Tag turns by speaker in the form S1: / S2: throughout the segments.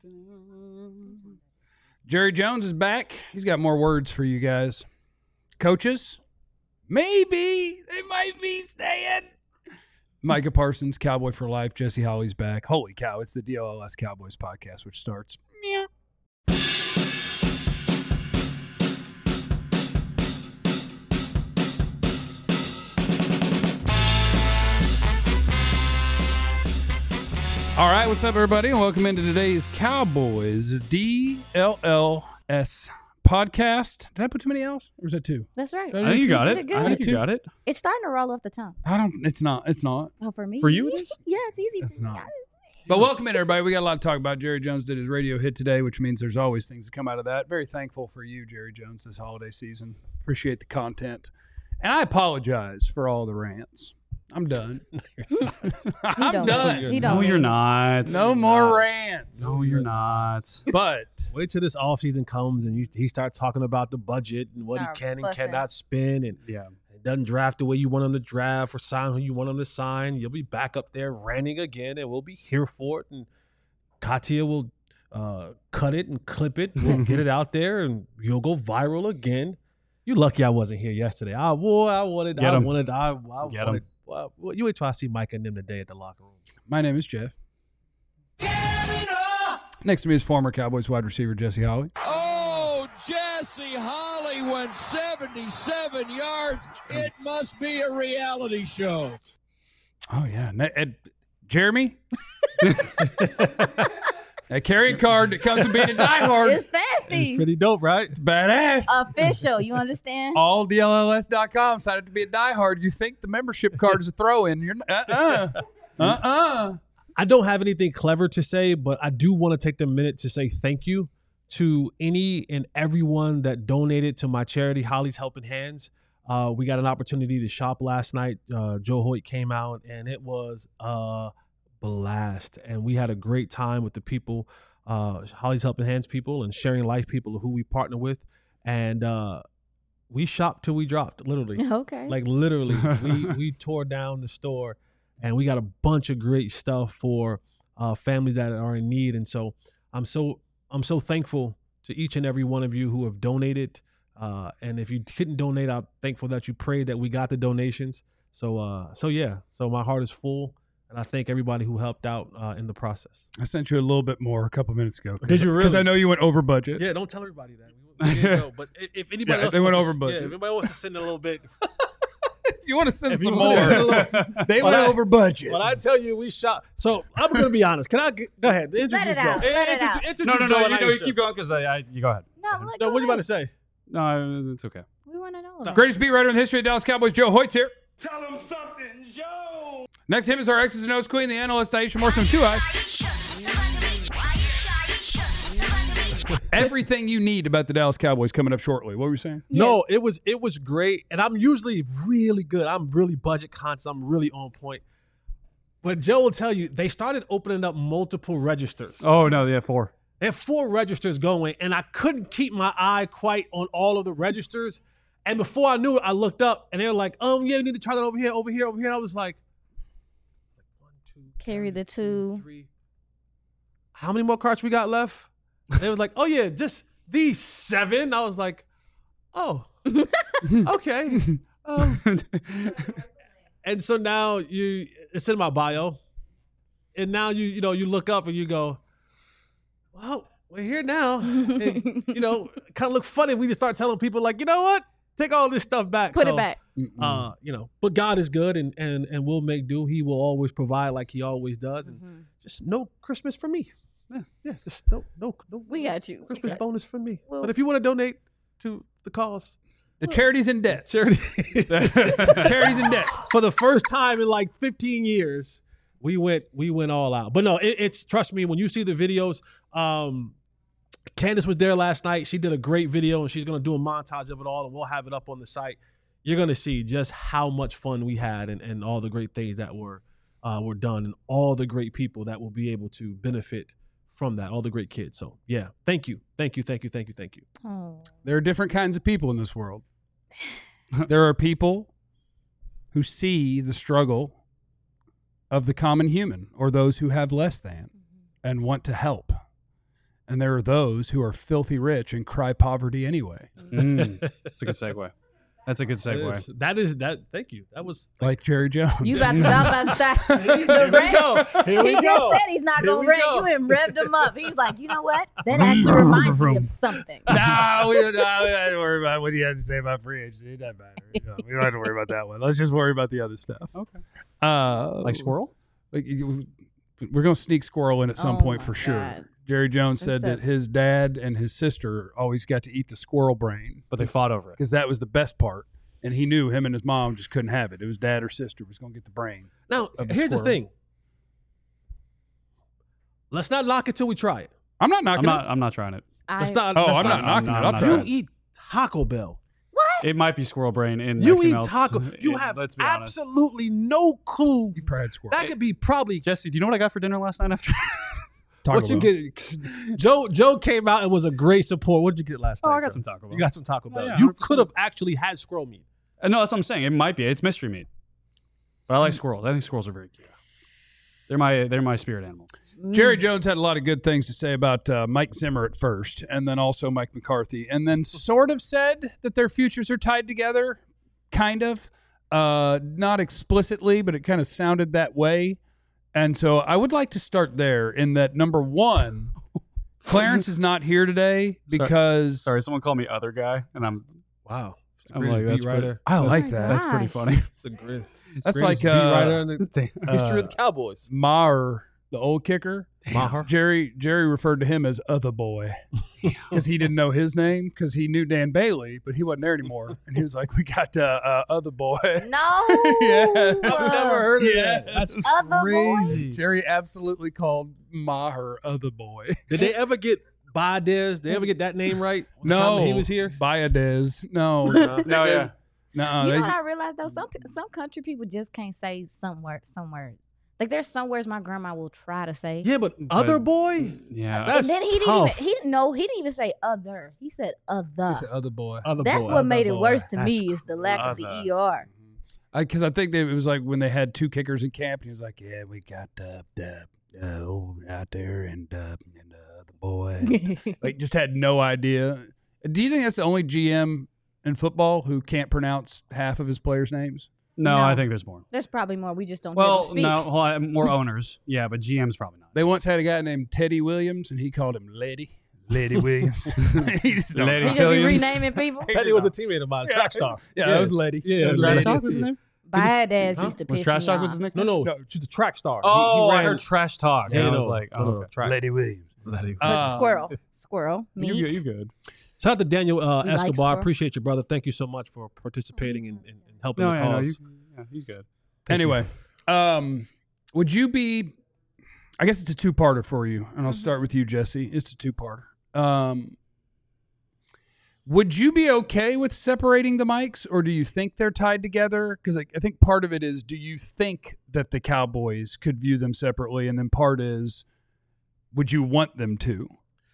S1: Jerry Jones is back. He's got more words for you guys. Coaches, maybe they might be staying. Micah Parsons, Cowboy for Life. Jesse Holly's back. Holy cow, it's the DLLS Cowboys podcast, which starts. Meow. All right, what's up, everybody, and welcome into today's Cowboys DLLS podcast. Did I put too many L's, or was that two?
S2: That's right.
S1: I think you got it.
S2: I
S1: think you got it.
S2: It's starting to roll off the tongue.
S1: It's not.
S2: Oh, for me?
S1: For you, it is?
S2: Yeah, it's easy.
S1: It's
S2: for me.
S1: not. But welcome in, everybody. We got a lot to talk about. Jerry Jones did his radio hit today, which means there's always things that come out of that. Very thankful for you, Jerry Jones, this holiday season. Appreciate the content. And I apologize for all the rants. I'm done. I'm done.
S3: No, you're not.
S1: No more rants.
S3: No, you're not.
S1: But
S4: wait till this offseason comes and he starts talking about the budget and what he can and cannot spend, and it doesn't draft the way you want him to draft or sign who you want him to sign. You'll be back up there ranting again, and we'll be here for it. And Katia will cut it and clip it. We'll get it out there, and you'll go viral again. You're lucky I wasn't here yesterday. I wanted. Well, you wait till I see Mike and them today at the locker room.
S1: My name is Jeff. Next to me is former Cowboys wide receiver Jesse Holly.
S5: Oh, Jesse Holly went 77 yards. It must be a reality show.
S1: Oh, yeah. Jeremy? A carrying card that comes with being a diehard.
S2: It's fancy.
S4: It's pretty dope, right?
S1: It's badass.
S2: Official. You understand?
S1: AllDLLS.com. Decided to be a diehard. You think the membership card is a throw-in. You're
S4: I don't have anything clever to say, but I do want to take the minute to say thank you to any and everyone that donated to my charity, Holly's Helping Hands. We got an opportunity to shop last night. Joe Hoyt came out, and it was blast, and we had a great time with the people, Holly's Helping Hands people and Sharing Life people who we partner with, and we shopped till we dropped, literally.
S2: Okay.
S4: Like literally, we tore down the store, and we got a bunch of great stuff for families that are in need, and so I'm so thankful to each and every one of you who have donated, and if you didn't donate, I'm thankful that you prayed that we got the donations. So my heart is full. And I thank everybody who helped out in the process.
S1: I sent you a little bit more a couple minutes ago.
S4: Did you really?
S1: Because I know you went over budget.
S4: Yeah, don't tell everybody that. We didn't know. But if anybody else
S1: went over budget.
S4: Yeah, if anybody wants to send a little bit.
S1: If you want to send some more. They went over budget.
S4: When I tell you we shot. So I'm going to be honest. Can I go ahead? Introduce Joe.
S3: No. You keep going because you go ahead.
S4: No, what are you about to say?
S3: No, it's okay.
S2: We want to know.
S1: Greatest beat writer in the history of Dallas Cowboys, Joe Hoyt's here.
S5: Tell him something, Joe.
S1: Next to him is our X's and O's queen, the analyst Aisha Morrison, 2 eyes. Everything you need about the Dallas Cowboys coming up shortly. What were you saying?
S4: No, it was great, and I'm usually really good. I'm really budget conscious. I'm really on point. But Joe will tell you they started opening up multiple registers.
S3: Oh no, yeah, 4.
S4: They have 4 registers going, and I couldn't keep my eye quite on all of the registers. And before I knew it, I looked up, and they were like, you need to try that over here. And I was like 1, 2,
S2: carry the 2.
S4: 3. How many more carts we got left? And they was like, oh, yeah, just these 7. I was like, oh, okay. And so now it's in my bio. And now you look up and you go, well, we're here now. And, kind of look funny if we just start telling people like, you know what? Take all this stuff back.
S2: Put it back.
S4: But God is good and we'll make do. He will always provide like he always does. And just no Christmas for me. Yeah, just no.
S2: We got you.
S4: Christmas bonus for me.
S2: Well,
S4: but if you want to donate to the cause.
S1: The charity's in debt.
S4: Charity's
S1: in debt.
S4: For the first time in like 15 years, we went all out. But no, it's trust me, when you see the videos, Candace was there last night. She did a great video, and she's going to do a montage of it all, and we'll have it up on the site. You're going to see just how much fun we had and all the great things that were done and all the great people that will be able to benefit from that, all the great kids. So, yeah, thank you.
S2: Oh.
S1: There are different kinds of people in this world. There are people who see the struggle of the common human or those who have less than and want to help. and there are those who are filthy rich and cry poverty anyway.
S3: That's a good segue. That's a good segue.
S4: That is that. Thank you. That was
S1: like Jerry Jones.
S2: You about to say
S4: Here we go. Here we
S2: He just
S4: go.
S2: said he's not going to rant.
S4: go.
S2: You and revved him up. He's like, you know what? That actually reminds me of something.
S1: No, we don't have to worry about what you had to say about free agency. It doesn't matter. We don't have to worry about that one. Let's just worry about the other stuff.
S3: Okay.
S1: Like
S3: squirrel?
S1: We're going to sneak squirrel in at some point for sure.
S2: God.
S1: Jerry Jones said that his dad and his sister always got to eat the squirrel brain.
S3: But they fought over it.
S1: Because that was the best part. And he knew him and his mom just couldn't have it. It was dad or sister was going to get the brain.
S4: Now, here's the thing. Let's not knock it till we try it.
S1: I'm not knocking it.
S3: I'm not trying it.
S1: I'm not knocking it. I'll try
S4: You
S1: it.
S4: eat Taco Bell.
S3: It might be squirrel brain in
S4: You
S3: Mexican
S4: eat
S3: melts.
S4: taco. You have
S3: Let's be honest.
S4: absolutely no clue.
S1: You probably had squirrel.
S4: That could be probably
S3: Jesse, do you know what I got for dinner last night after?
S4: what you get. Joe came out and was a great support. What did you get last night?
S3: I got
S4: Joe?
S3: some Taco Bell.
S4: You got some Taco Bell.
S3: yeah,
S4: you
S3: 100%.
S4: could have actually had squirrel meat.
S3: No, that's what I'm saying. It might be. It's mystery meat. But I like squirrels. I think squirrels are very cute. They're my spirit animal.
S1: Jerry Jones had a lot of good things to say about Mike Zimmer at first, and then also Mike McCarthy, and then sort of said that their futures are tied together, kind of. Not explicitly, but it kind of sounded that way. And so I would like to start there in that, number one, Clarence is not here today because...
S3: Sorry, someone called me other guy, and I'm...
S4: Wow.
S3: I'm like, that's pretty,
S1: I like that.
S3: That's pretty funny.
S1: That's like
S4: beat writer in the history of the Cowboys.
S1: Maher, the old kicker.
S4: Maher.
S1: Jerry referred to him as Other Boy because he didn't know his name because he knew Dan Bailey, but he wasn't there anymore. And he was like, "We got Other Boy."
S2: No.
S1: Yeah.
S4: I've never heard of
S1: Yeah.
S4: that. That's
S2: Other Boy?
S4: crazy.
S1: Jerry absolutely called Maher Other Boy.
S4: Did they ever get Baez? Did they ever get that name right? The
S1: No,
S4: time he was here.
S1: Baez. No,
S3: No, yeah.
S1: no.
S2: You know what I realized though? Some country people just can't say some words. Like there's some words my grandma will try to say.
S4: Yeah, but other boy.
S3: Yeah.
S4: That's
S2: and then he
S4: tough.
S2: didn't even say other. He said other.
S1: He said Other Boy.
S4: Other
S2: That's
S4: boy.
S2: what made it
S1: boy.
S2: worse to
S4: That's
S2: me is the lack of the ER.
S1: Because I think it was like when they had two kickers in camp, and he was like, "Yeah, we got out there and the boy." Like, just had no idea. Do you think that's the only GM in football who can't pronounce half of his players' names?
S3: No,
S2: No.
S3: I think there's more.
S2: There's probably more. We just don't hear
S3: Well,
S2: them speak.
S3: no, more owners. Yeah, but GM's probably not.
S1: They once had a guy named Teddy Williams, and he called him Lady Williams. He just don't
S3: Lady
S1: know.
S2: He just be
S3: Williams.
S2: renaming people.
S4: Teddy was a teammate of mine, track star.
S1: Yeah, that was Lady.
S4: Yeah,
S1: That was
S3: Trash
S1: Lady.
S3: Talk was his name?
S2: Baez
S4: Huh?
S2: used to
S3: Was
S2: piss
S3: Trash
S2: me
S3: Talk
S2: off.
S3: was his nickname?
S4: No, she's a track star.
S3: Oh,
S4: He
S3: I
S4: ran-
S3: heard Trash Talk.
S4: Yeah,
S3: and I
S4: no,
S3: was like,
S4: no,
S3: oh,
S4: no,
S3: okay.
S4: track.
S1: Lady Williams.
S2: But squirrel, meat.
S3: You good.
S4: Shout out to Daniel
S2: like
S4: Escobar.
S2: squirrel.
S4: Appreciate you, brother. Thank you so much for participating and helping
S3: No,
S4: the
S3: yeah, no,
S4: cause.
S3: he's good.
S1: Anyway, would you be? I guess it's a two-parter for you, and I'll start with you, Jesse. It's a two-parter. Would you be okay with separating the mics, or do you think they're tied together? Because I think part of it is, do you think that the Cowboys could view them separately, and then part is, would you want them to?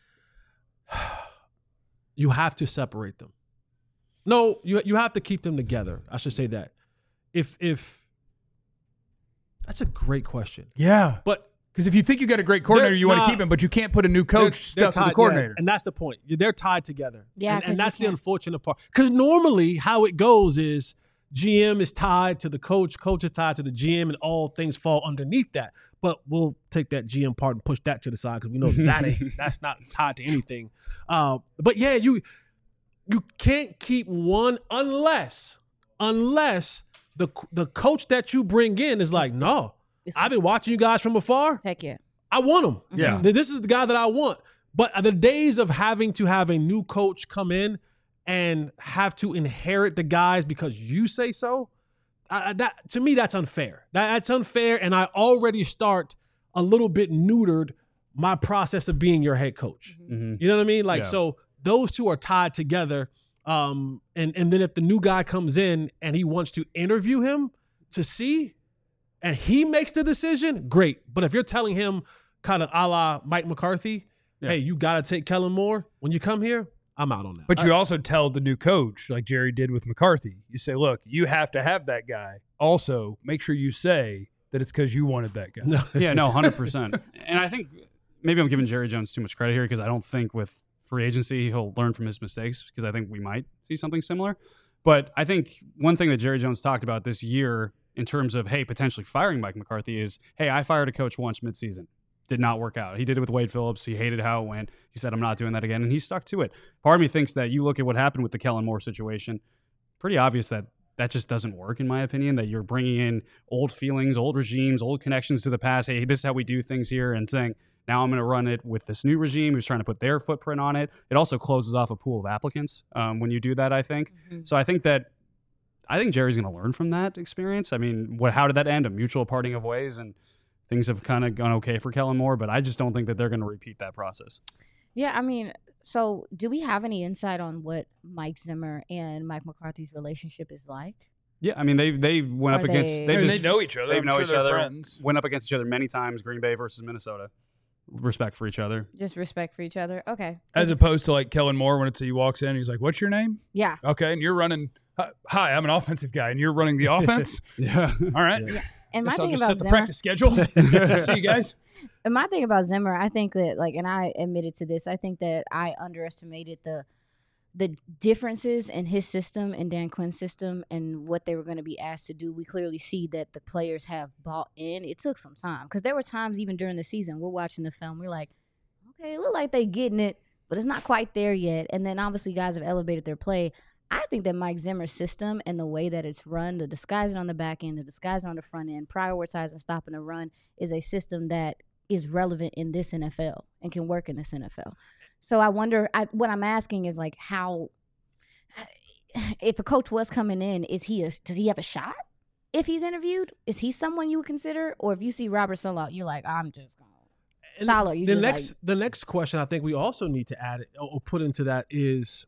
S4: You have to separate them. No, you have to keep them together. I should say that. If that's a great question.
S1: Yeah,
S4: But
S1: because if you think you got a great coordinator, you want to
S4: nah.
S1: keep him, but you can't put a new coach stuck with the coordinator.
S4: yeah, and that's the point. They're tied together.
S2: Yeah,
S4: and
S2: 'cause you
S4: that's the
S2: can't-
S4: unfortunate part. Because normally how it goes is GM is tied to the coach is tied to the GM, and all things fall underneath that. But we'll take that GM part and push that to the side because we know that's not tied to anything. But yeah, you can't keep one unless the coach that you bring in is like, no, I've been watching you guys from afar.
S2: Heck yeah.
S4: I want him.
S1: Yeah.
S4: This is the guy that I want. But the days of having to have a new coach come in and have to inherit the guys because you say so, that to me, that's unfair. That's unfair, and I already start a little bit neutered my process of being your head coach.
S3: Mm-hmm.
S4: You know what I mean? Like,
S3: Yeah.
S4: so those two are tied together. And then if the new guy comes in and he wants to interview him to see, and he makes the decision, great. But if you're telling him kind of a la Mike McCarthy, hey, you got to take Kellen Moore when you come here, I'm out on that.
S1: But you also tell the new coach, like Jerry did with McCarthy, you say, look, you have to have that guy. Also, make sure you say that it's because you wanted that guy.
S4: No.
S3: Yeah, no, 100%. And I think maybe I'm giving Jerry Jones too much credit here because I don't think with free agency he'll learn from his mistakes because I think we might see something similar. But I think one thing that Jerry Jones talked about this year in terms of, hey, potentially firing Mike McCarthy is, hey, I fired a coach once midseason. Did not work out. He did it with Wade Phillips. He hated how it went. He said, I'm not doing that again. And he stuck to it. Part of me thinks that you look at what happened with the Kellen Moore situation, pretty obvious that that just doesn't work, in my opinion, that you're bringing in old feelings, old regimes, old connections to the past. Hey, this is how we do things here, and saying, now I'm going to run it with this new regime who's trying to put their footprint on it. It also closes off a pool of applicants when you do that, I think. Mm-hmm. So I think Jerry's going to learn from that experience. I mean, how did that end? A mutual parting of ways, and things have kind of gone okay for Kellen Moore, but I just don't think that they're going to repeat that process.
S2: Yeah, I mean, so do we have any insight on what Mike Zimmer and Mike McCarthy's relationship is like?
S3: Yeah, I mean, they went up against.
S1: They know each other.
S3: They know each other.
S1: Friends.
S3: Went up against each other many times. Green Bay versus Minnesota. Respect for each other.
S2: Just respect for each other. Okay.
S1: As opposed to like Kellen Moore when he walks in, he's like, "What's your name?"
S2: Yeah.
S1: Okay, and you're running. Hi, I'm an offensive guy, and you're running the offense.
S3: Yeah.
S1: All right.
S2: Yeah. And my
S1: I'll
S2: thing
S1: just
S2: about
S1: set the
S2: Zimmer,
S1: practice schedule. See you guys.
S2: And my thing about Zimmer, I think that and I admitted to this, I think that I underestimated the differences in his system and Dan Quinn's system and what they were going to be asked to do. We clearly see that the players have bought in. It took some time because there were times even during the season we're watching the film, we're like, okay, it look like they getting it, but it's not quite there yet. And then obviously guys have elevated their play. I think that Mike Zimmer's system and the way that it's run, the disguising on the back end, the disguising on the front end, prioritizing stopping the run is a system that is relevant in this NFL and can work in this NFL. So I wonder, what I'm asking is like how, if a coach was coming in, does he have a shot if he's interviewed? Is he someone you would consider? Or if you see Robert Saleh, you're like, I'm just going to Saleh.
S4: The next question I think we also need to add or put into that is,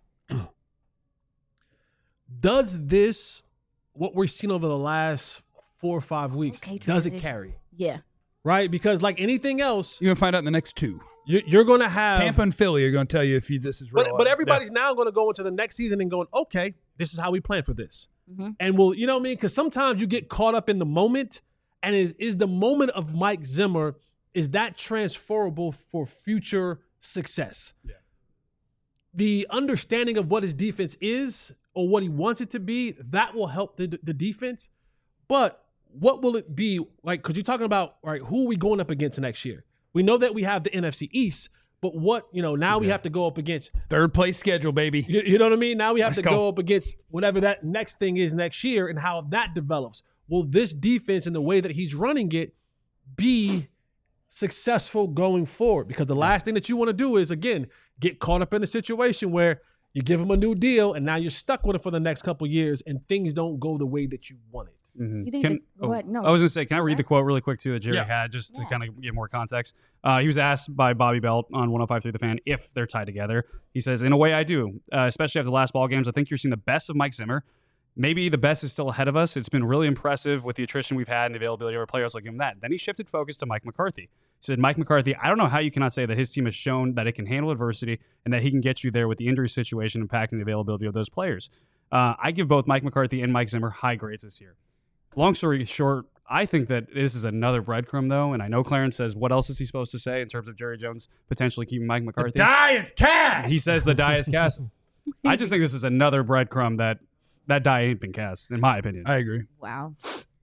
S4: does this, what we're seeing over the last 4 or 5 weeks, does it carry?
S2: Yeah.
S4: Right? Because like anything else,
S1: you're going to find out in the next 2.
S4: You're going to have
S1: Tampa and Philly are going to tell you if this is real.
S4: But everybody's now going to go into the next season and going, okay, this is how we plan for this. Mm-hmm. And we'll, you know what I mean? Because sometimes you get caught up in the moment, and is the moment of Mike Zimmer, is that transferable for future success? Yeah. The understanding of what his defense is or what he wants it to be, that will help the defense. But what will it be like? Because you're talking about, right, who are we going up against next year? We know that we have the NFC East, but what, now we have to go up against
S1: third place schedule, baby.
S4: You know what I mean? Now we have to go up against whatever that next thing is next year and how that develops. Will this defense and the way that he's running it be successful going forward? Because the last thing that you want to do is, again, get caught up in a situation where you give him a new deal and now you're stuck with it for the next couple of years and things don't go the way that you wanted.
S2: Mm-hmm. You think what? No.
S3: I was going to say, can I read the quote really quick, too, that Jerry had, just to kind of give more context? He was asked by Bobby Belt on 105.3 The Fan if they're tied together. He says, in a way, I do, especially after the last ball games. I think you're seeing the best of Mike Zimmer. Maybe the best is still ahead of us. It's been really impressive with the attrition we've had and the availability of our players. I'll give him that. Then he shifted focus to Mike McCarthy. He said, Mike McCarthy, I don't know how you cannot say that his team has shown that it can handle adversity and that he can get you there with the injury situation impacting the availability of those players. I give both Mike McCarthy and Mike Zimmer high grades this year. Long story short, I think that this is another breadcrumb, though, and I know Clarence says, what else is he supposed to say in terms of Jerry Jones potentially keeping Mike McCarthy?
S1: The die is cast!
S3: He says the die is cast. I just think this is another breadcrumb that die ain't been cast, in my opinion.
S1: I agree.
S2: Wow.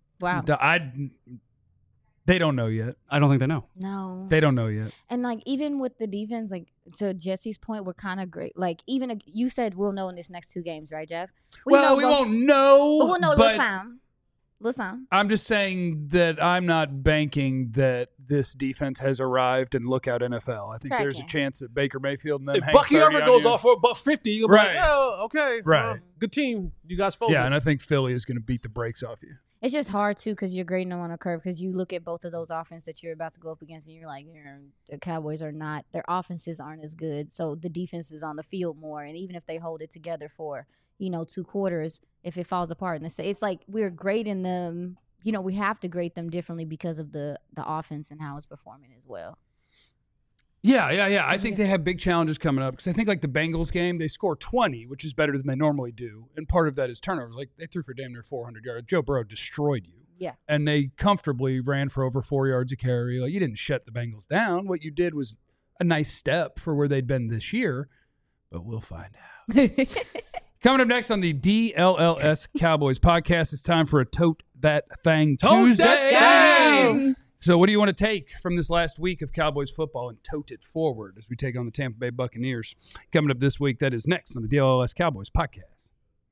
S1: They don't know yet.
S3: I don't think they know.
S2: No.
S1: They don't know yet.
S2: And, even with the defense, to Jesse's point, we're kind of great. Even you said we'll know in this next 2 games, right, Jeff?
S1: We won't know.
S2: But we'll know Listen.
S1: I'm just saying that I'm not banking that this defense has arrived and look out NFL. I think there's a chance that Baker Mayfield and them
S4: if Bucky ever goes off for about 50, you'll be like, oh, okay.
S1: Right.
S4: Good team. You guys folded.
S1: Yeah, and I think Philly is going to beat the brakes off you.
S2: It's just hard, too, because you're grading them on a curve because you look at both of those offenses that you're about to go up against and you're like, the Cowboys are not – their offenses aren't as good. So the defense is on the field more. And even if they hold it together for – 2 quarters, if it falls apart. And it's like we're grading them, we have to grade them differently because of the offense and how it's performing as well.
S1: Yeah. I think they have big challenges coming up because I think like the Bengals game, they score 20, which is better than they normally do. And part of that is turnovers. Like they threw for damn near 400 yards. Joe Burrow destroyed you.
S2: Yeah.
S1: And they comfortably ran for over 4 yards a carry. Like, you didn't shut the Bengals down. What you did was a nice step for where they'd been this year, but we'll find out. Coming up next on the DLLS Cowboys podcast, it's time for a Tote That Thang Tuesday.
S4: That thing!
S1: So what do you want to take from this last week of Cowboys football and tote it forward as we take on the Tampa Bay Buccaneers? Coming up this week, that is next on the DLLS Cowboys podcast.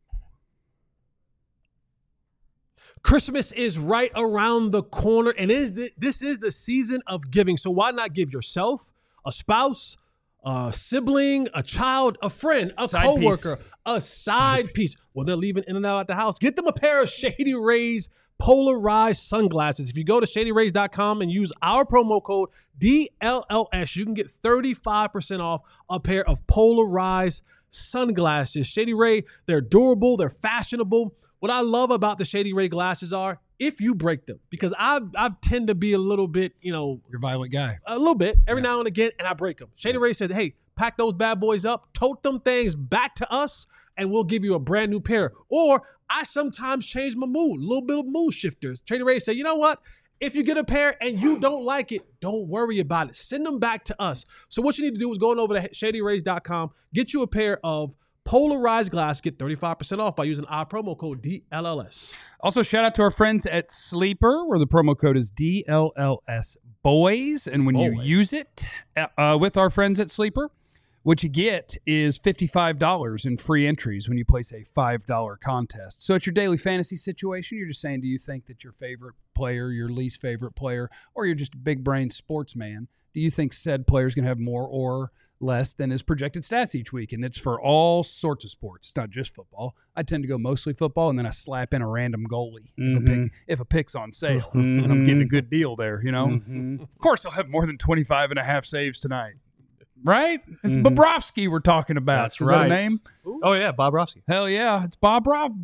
S4: Christmas is right around the corner, and this is the season of giving. So why not give yourself, a spouse, a sibling, a child, a friend, a coworker, a side piece? Well, they're leaving in and out at the house. Get them a pair of Shady Rays polarized sunglasses. If you go to shadyrays.com and use our promo code DLLS, you can get 35% off a pair of polarized sunglasses. Shady Ray, they're durable, they're fashionable. What I love about the Shady Ray glasses are if you break them, because I tend to be a little bit,
S1: you're a violent guy.
S4: A little bit every now and again, and I break them. Shady Ray said, hey, pack those bad boys up, tote them things back to us, and we'll give you a brand new pair. Or I sometimes change my mood, a little bit of mood shifters. Shady Ray said, you know what? If you get a pair and you don't like it, don't worry about it. Send them back to us. So what you need to do is go on over to shadyrays.com, get you a pair of polarized glass, get 35% off by using our promo code DLLS.
S1: Also, shout out to our friends at Sleeper, where the promo code is DLLS Boys. And when you use it with our friends at Sleeper, what you get is $55 in free entries when you place a $5 contest. So it's your daily fantasy situation. You're just saying, do you think that your favorite player, your least favorite player, or you're just a big brain sportsman, do you think said player is going to have more or less than his projected stats each week? And it's for all sorts of sports, not just football. I tend to go mostly football, and then I slap in a random goalie if a pick's on sale, and I'm getting a good deal there, Of course, I'll have more than 25 and a half saves tonight. Right? It's Bobrovsky we're talking about.
S3: That's
S1: Is
S3: right.
S1: that a name?
S3: Oh, yeah, Bobrovsky.
S1: Hell yeah. It's Bobrovsky.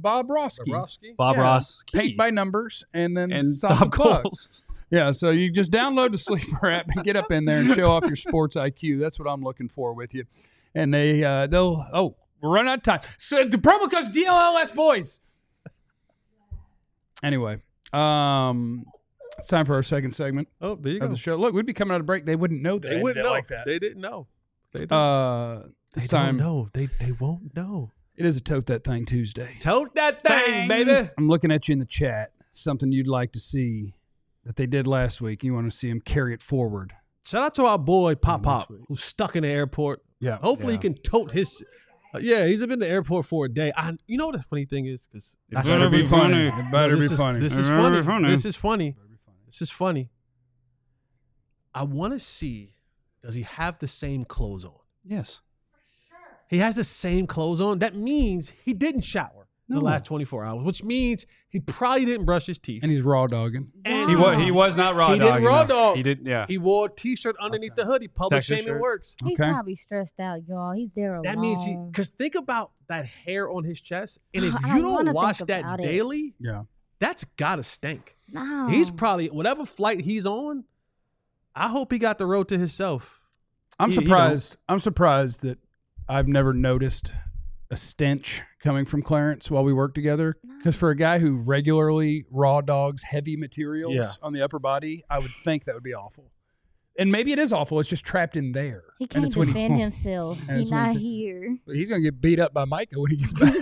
S3: Bobrovsky.
S1: Paint by numbers and then
S3: stop
S1: goals. Yeah, so you just download the Sleeper app and get up in there and show off your sports IQ. That's what I'm looking for with you. And we're running out of time. So the promo code's DLLS Boys. Anyway, it's time for our second segment.
S4: Oh, there you go.
S1: Of the show. Look, we'd be coming out of break. They wouldn't know that.
S4: They wouldn't know
S1: like that.
S4: They didn't know. They don't.
S1: This
S4: they
S1: time,
S4: don't know. They won't know.
S1: It is a Tote That Thing Tuesday.
S4: Tote that thing, baby.
S1: I'm looking at you in the chat. Something you'd like to see that they did last week. You want to see them carry it forward.
S4: Shout out to our boy Pop, who's stuck in the airport.
S1: Yeah.
S4: Hopefully he can tote his. He's been in the airport for a day. You know what the funny thing is? Because
S1: it better be funny. It better be funny.
S4: This is funny. This is funny. I want to see, does he have the same clothes on?
S1: Yes.
S4: He has the same clothes on. That means he didn't shower the last 24 hours, which means he probably didn't brush his teeth.
S1: And he's raw dogging.
S4: And
S3: he was not raw dogging.
S4: He didn't raw dog.
S3: He did, yeah.
S4: He wore a T-shirt underneath the hoodie. Public shaming works.
S2: He's probably stressed out, y'all. He's there alone.
S4: That means because think about that hair on his chest. And if you don't wash that daily, that's got to stink.
S2: No.
S4: He's probably, whatever flight he's on, I hope he got the road to himself.
S1: I'm surprised. I'm surprised that I've never noticed a stench coming from Clarence while we work together. Because for a guy who regularly raw dogs heavy materials on the upper body, I would think that would be awful. And maybe it is awful. It's just trapped in there.
S2: He can't defend himself. He's not here.
S1: He's going to get beat up by Micah when he gets back.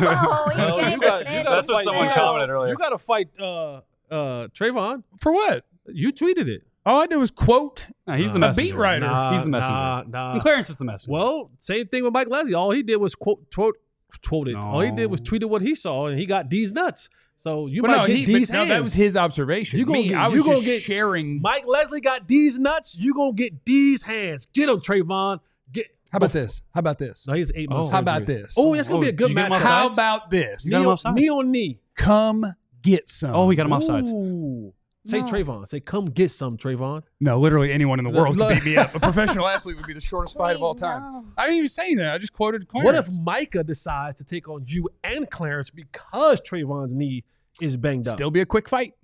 S3: That's what someone commented earlier.
S4: You got to fight Trayvon.
S1: For what?
S4: You tweeted it.
S1: All I did was quote.
S3: He's the messenger.
S1: A beat writer.
S3: He's the messenger. And Clarence is the messenger.
S4: Well, same thing with Mike Leslie. All he did was quote it. All he did was tweeted what he saw, and he got D's nuts. So you might get D's hands.
S1: No, that was his observation. I was just sharing.
S4: Mike Leslie got D's nuts. You gonna get D's hands. Get him, Trayvon.
S1: How about this?
S4: No, he's 8 months.
S1: How about this?
S4: Oh, it's gonna be a good match.
S1: How about this?
S4: Knee on knee.
S1: Come get some.
S3: Oh, he got him offsides.
S4: Say Trayvon. Say, come get some, Trayvon.
S1: No, literally anyone in the world could beat me up. A professional athlete would be the shortest fight of all time. No. I didn't even say that. I just quoted Clarence.
S4: What if Micah decides to take on you and Clarence because Trayvon's knee is banged up?
S1: Still be a quick fight.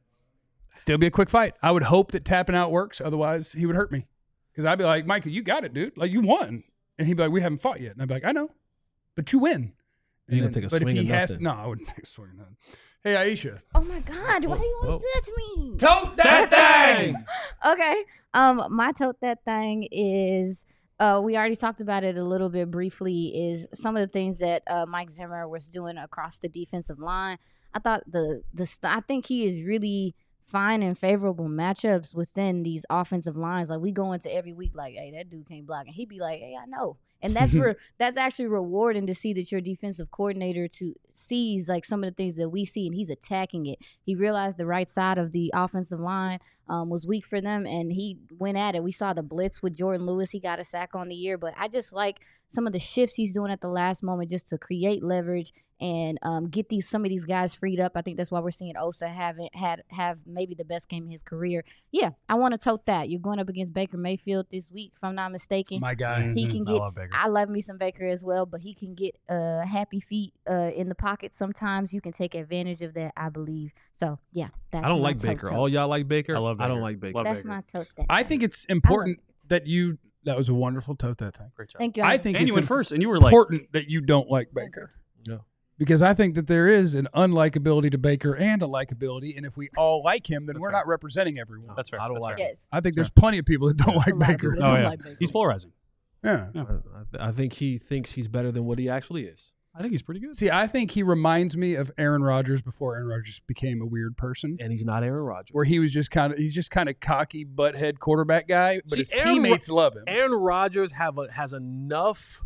S1: I would hope that tapping out works. Otherwise, he would hurt me. Because I'd be like, Micah, you got it, dude. Like, you won. And he'd be like, we haven't fought yet. And I'd be like, I know. But you win.
S4: Are you going to take a swing or nothing?
S1: No, I wouldn't take a swing or nothing. Hey, Aisha.
S2: Oh my God! Why do you want to do that to me?
S1: Tote that thing.
S2: Okay. My tote that thing is. We already talked about it a little bit briefly. Is some of the things that Mike Zimmer was doing across the defensive line. I thought I think he is really finding favorable matchups within these offensive lines. Like we go into every week like, hey, that dude can't block, and he'd be like, hey, I know. And that's actually rewarding to see that your defensive coordinator sees like some of the things that we see, and he's attacking it. He realized the right side of the offensive line was weak for them, and he went at it. We saw the blitz with Jordan Lewis. He got a sack on the year, but I just like some of the shifts he's doing at the last moment just to create leverage and get some of these guys freed up. I think that's why we're seeing Osa have maybe the best game of his career. Yeah, I want to tote that. You're going up against Baker Mayfield this week, if I'm not mistaken.
S1: My guy.
S2: He can get.
S3: I love Baker.
S2: I love me some Baker as well, but he can get happy feet in the pocket sometimes. You can take advantage of that, I believe. So yeah, that's.
S4: I don't
S2: my
S4: like
S2: tote.
S4: Baker. All y'all like Baker.
S3: I love Baker.
S4: I don't like Baker.
S3: Love
S2: That's
S3: Baker.
S2: my tote.
S1: I think it's important that you. That was a wonderful tote that thing.
S3: Great job.
S2: Thank you.
S1: I think
S3: And
S1: it's
S3: you went first, and you were like,
S1: important that you don't like Baker.
S4: No.
S1: Because I think that there is an unlikability to Baker and a likability, and if we all like him, then
S3: That's
S1: we're
S3: fair.
S1: not representing everyone.
S3: that's fair.
S4: I don't
S3: That's
S4: like
S3: fair.
S2: Yes.
S1: I think
S3: That's
S1: there's plenty of people that don't
S2: A
S1: like
S2: lot of
S1: Baker.
S2: people
S3: Oh,
S2: don't
S3: yeah.
S2: like Baker.
S3: He's polarizing.
S1: Yeah.
S4: I think he thinks he's better than what he actually is.
S3: I think he's pretty good.
S1: See, I think he reminds me of Aaron Rodgers before Aaron Rodgers became a weird person,
S4: And he's not Aaron Rodgers.
S1: where he's just kind of cocky butthead quarterback guy, but
S4: See,
S1: his
S4: Aaron
S1: teammates love him.
S4: Aaron Rodgers has enough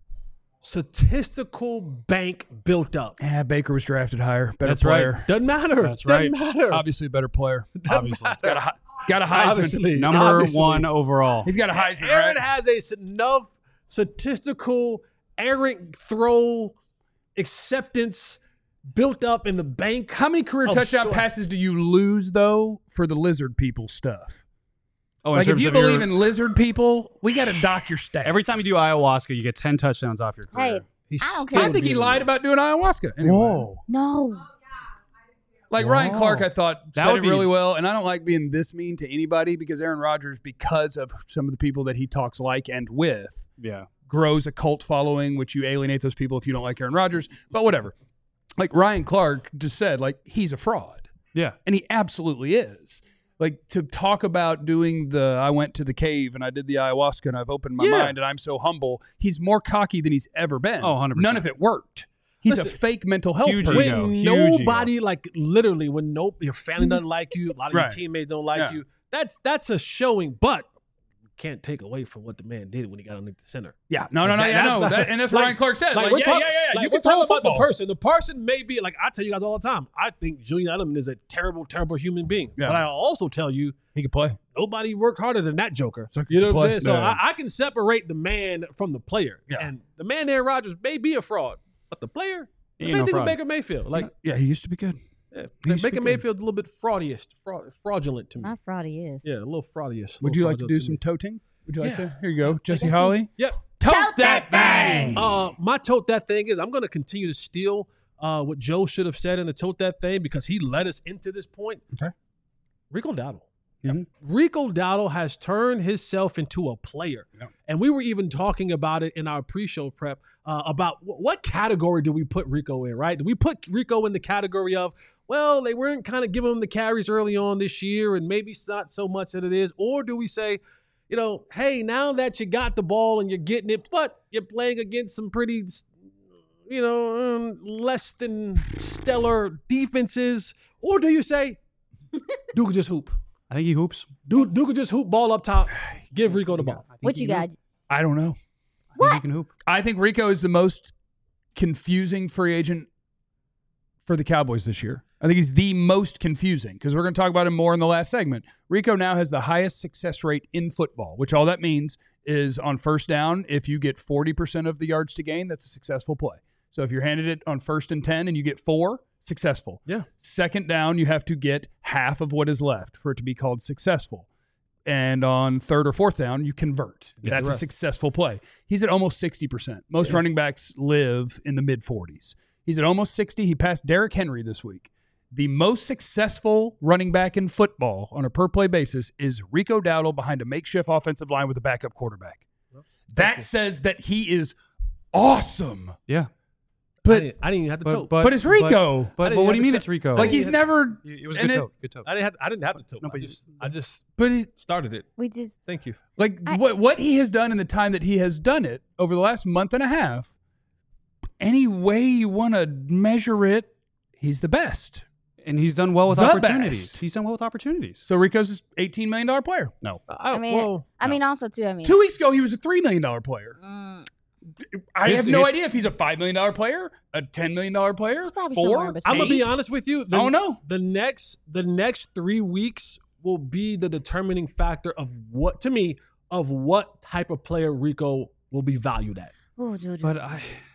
S4: statistical bank built up.
S1: Yeah, Baker was drafted higher, better
S3: That's right.
S1: player,
S4: Doesn't matter.
S3: That's
S4: Doesn't
S3: right.
S4: matter.
S1: obviously a better player.
S3: Obviously.
S1: Got a Heisman.
S4: Obviously.
S3: Number
S4: Obviously.
S3: 1 overall.
S1: He's got a Heisman,
S4: Aaron
S1: right?
S4: has enough statistical errant throw acceptance built up in the bank.
S1: How many career
S4: Oh,
S1: touchdown
S4: sure.
S1: passes do you lose though for the lizard people stuff?
S3: Oh, in
S1: Like if
S3: terms
S1: you
S3: of your-
S1: believe in lizard people, we got to dock your stats.
S3: every time you do ayahuasca, you get 10 touchdowns off your career.
S2: Hey, I don't care.
S1: I think he lied about doing ayahuasca. Anyway.
S4: Whoa.
S2: No.
S1: Like Ryan Clark, I thought
S3: That
S1: said
S3: would
S1: it
S3: be-
S1: really well, and I don't like being this mean to anybody because Aaron Rodgers, because of some of the people that he talks like and with,
S3: Yeah.
S1: grows a cult following, which you alienate those people if you don't like Aaron Rodgers. But whatever. Like Ryan Clark just said, like he's a fraud,
S3: Yeah.
S1: and he absolutely is. Like to talk about doing I went to the cave and I did the ayahuasca and I've opened my mind and I'm so humble. He's more cocky than he's ever been.
S3: Oh, 100%.
S1: None of it worked. He's a
S4: Listen,
S1: fake mental health
S3: huge
S1: person.
S3: ego.
S4: When
S3: Huge
S4: nobody, like literally, when your family doesn't like you, a lot of
S1: Right.
S4: your teammates don't like
S1: Yeah.
S4: you, that's a showing, but you can't take away from what the man did when he got underneath the center.
S1: Yeah, no,
S4: That-
S1: yeah, no,
S4: that-
S1: and that's what
S4: like-
S1: Ryan Clark said. Like,
S4: we're
S1: yeah,
S4: talk-
S1: yeah.
S4: like,
S1: You
S4: we're
S1: can talk
S4: talking about
S1: football.
S4: the person. The person may be like I tell you guys all the time. I think Julian Edelman is a terrible, terrible human being.
S1: Yeah.
S4: But I also tell you
S1: He could play.
S4: nobody worked harder than that Joker.
S1: So
S4: You know what I'm
S1: play.
S4: saying? So
S1: Yeah.
S4: I can separate the man from the player.
S1: Yeah.
S4: And the man Aaron Rodgers may be a fraud, but the player,
S3: He
S4: the
S3: ain't
S4: same
S3: no
S4: thing with
S3: fraud.
S4: Baker Mayfield. Like
S1: Yeah, he used to be good.
S4: yeah,
S1: He used to be
S4: Baker
S1: good.
S4: Mayfield's a little bit fraudulent to me.
S2: Not fraudy is.
S4: Yeah, a little fraudiest.
S1: Would you like to do some toting? Would you like to? Here you go, Jesse Holly.
S4: Yep.
S1: Tote that thing.
S4: My tote that thing is I'm going to continue to steal what Joe should have said in the tote that thing because he led us into this point.
S1: Okay.
S4: Rico Dowdle.
S1: Mhm.
S4: Rico Dowdle has turned himself into a player.
S1: Yeah.
S4: And we were even talking about it in our pre-show prep about what category do we put Rico in, right? Do we put Rico in the category of, well, they weren't kind of giving him the carries early on this year and maybe it's not so much that it is? Or do we say, you know, hey, now that you got the ball and you're getting it, but you're playing against some pretty, you know, less than stellar defenses? Or do you say, Duke could just hoop?
S3: I think he hoops.
S4: Duke could just hoop ball up top. Give Rico the ball.
S3: I think
S2: What
S3: he
S2: you
S3: can
S2: got?
S1: I don't know.
S3: hoop. I think he can hoop.
S1: I think Rico is the most confusing free agent for the Cowboys this year. I think he's the most confusing because we're going to talk about him more in the last segment. Rico now has the highest success rate in football, which all that means is on first down, if you get 40% of the yards to gain, that's a successful play. So if you're handed it on 1st and 10 and you get 4, successful.
S4: Yeah.
S1: Second down, you have to get half of what is left for it to be called successful. And on 3rd or 4th down, you convert.
S4: Get the
S1: That's a
S4: rest.
S1: successful play. He's at almost 60%. Most running backs live in the mid-40s. He's at almost 60. He passed Derrick Henry this week. The most successful running back in football on a per-play basis is Rico Dowdle behind a makeshift offensive line with a backup quarterback. That says that he is awesome.
S3: Yeah.
S1: But
S4: I didn't even have to tote.
S1: But it's Rico.
S3: But what do you mean it's Rico?
S1: Like he's never.
S3: It was a good tote. Good tote.
S4: I didn't have to tote.
S3: No, but
S4: I just
S1: But
S4: started it.
S2: We just
S4: Thank you.
S1: like what he has done in the time that he has done it over the last month and a half. Any way you want to measure it, he's the best.
S3: And he's done well with
S1: The
S3: opportunities.
S1: best.
S3: He's done well with opportunities.
S1: So Rico's $18 million player.
S3: No.
S2: I mean, also too. I mean,
S1: 2 weeks ago he was a $3 million player. I have no
S3: His-
S1: idea if he's a $5 million player, a $10 million player,
S2: It's probably somewhere in
S1: 4.
S2: between.
S4: I'm gonna be
S1: 8.
S4: honest with you.
S1: I don't know.
S4: The next 3 weeks will be the determining factor of what type of player Rico will be valued at.
S2: Ooh, Juju.
S3: But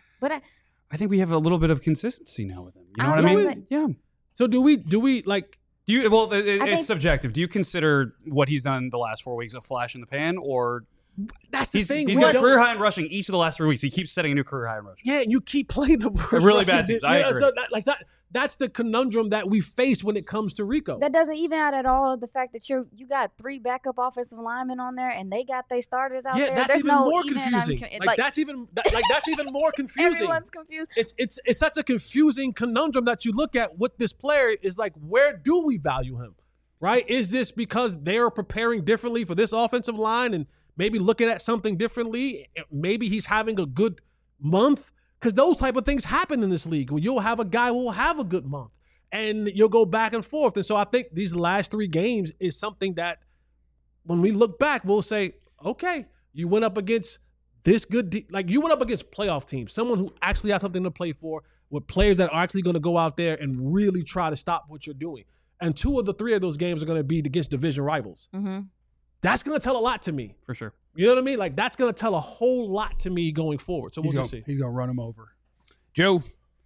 S3: I think we have a little bit of consistency now with him. You know what I mean? Yeah.
S4: So do we like?
S3: Do you? Well,
S2: think-
S3: it's subjective. Do you consider what he's done the last 4 weeks a flash in the pan, or
S4: That's the thing.
S3: He's got a career high in rushing each of the last 3 weeks. He keeps setting a new career high in rushing.
S4: Yeah, and you keep playing the worst
S3: really
S4: Russian
S3: bad teams. I agree.
S4: That's the conundrum that we face when it comes to Rico.
S2: That doesn't even out at all the fact that you got 3 backup offensive linemen on there and they got their starters out there.
S4: That's
S2: There's
S4: even more confusing. That's even more confusing.
S2: Everyone's confused.
S4: It's such a confusing conundrum that you look at with this player is like, where do we value him? Right? Is this because they are preparing differently for this offensive line and maybe looking at something differently? Maybe he's having a good month. Because those type of things happen in this league where you'll have a guy who will have a good month and you'll go back and forth. And so I think these last 3 games is something that when we look back, we'll say, okay, you went up against this good, you went up against playoff teams, someone who actually has something to play for with players that are actually going to go out there and really try to stop what you're doing. And 2 of the 3 of those games are going to be against division rivals.
S2: Mm-hmm.
S4: That's going to tell a lot to me.
S3: For sure.
S4: You know what I mean? Like, that's going to tell a whole lot to me going forward. So we'll just see.
S1: He's going to run him over. Joe.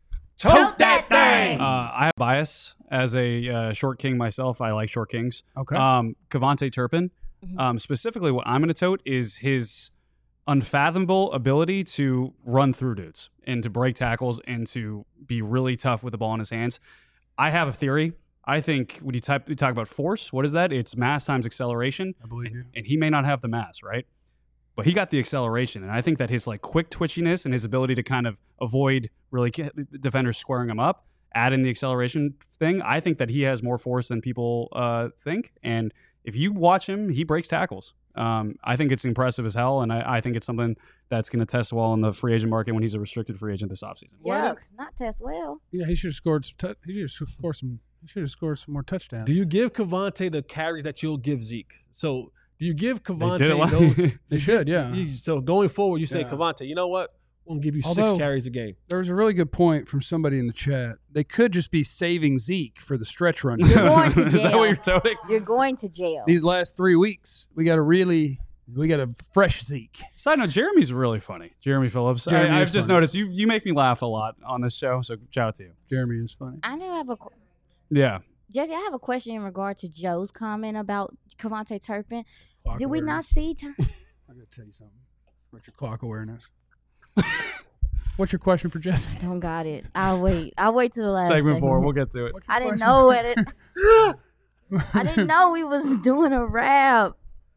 S2: Tote that thing!
S3: I have bias as a short king myself. I like short kings.
S1: Okay.
S3: Kevontae Turpin. Specifically, what I'm going to tote is his unfathomable ability to run through dudes and to break tackles and to be really tough with the ball in his hands. I have a theory. I think when you talk about force, what is that? It's mass times acceleration.
S1: I believe you.
S3: And he may not have the mass, right? But he got the acceleration. And I think that his quick twitchiness and his ability to kind of avoid really defenders squaring him up, add in the acceleration thing, I think that he has more force than people think. And if you watch him, he breaks tackles. I think it's impressive as hell. And I think it's something that's going to test well in the free agent market when he's a restricted free agent this offseason.
S2: Yeah, not test well.
S1: Yeah, he should have scored some. He should have scored some more touchdowns.
S4: Do you give Kevontae the carries that you'll give Zeke? So do you give
S3: They
S4: Kevontae those?
S1: They should, yeah.
S4: So going forward, you say,
S1: Yeah.
S4: Kevontae, you know what? We'll give you 6
S1: Although-
S4: carries a game.
S1: There was a really good point from somebody in the chat. They could just be saving Zeke for the stretch run.
S2: You're going to
S3: Is that what
S2: jail.
S3: you're toting?
S2: You're going to jail.
S1: These last 3 weeks, we got a fresh Zeke.
S3: Side note, Jeremy's really funny. Jeremy Phillips.
S1: Jeremy
S3: I've
S1: is
S3: just
S1: funny.
S3: noticed you make me laugh a lot on this show, so shout out to you.
S1: Jeremy is funny.
S2: I do have
S3: Yeah.
S2: Jesse, I have a question in regard to Joe's comment about Kevontae Turpin.
S1: Clock
S2: Did we not
S1: awareness.
S2: see
S1: I got to tell you something. What's your clock awareness? What's your question for Jesse?
S2: I don't got it. I'll wait to the last
S3: Segment 4,
S2: segment.
S3: we'll get to it.
S2: I didn't know it. I didn't know we was doing a rap.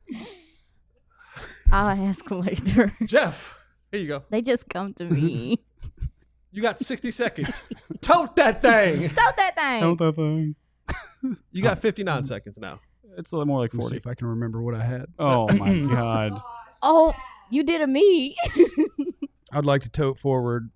S2: I'll ask later.
S4: Jeff, here you go.
S2: They just come to me.
S4: You got 60 seconds. Tote that thing.
S2: Tote that thing.
S3: Don't that thing.
S4: You got 59 seconds now.
S3: It's a little more like
S1: Let me see
S3: 40.
S1: if I can remember what I had.
S3: Oh my God.
S2: Oh, you did a me.
S1: I'd like to tote forward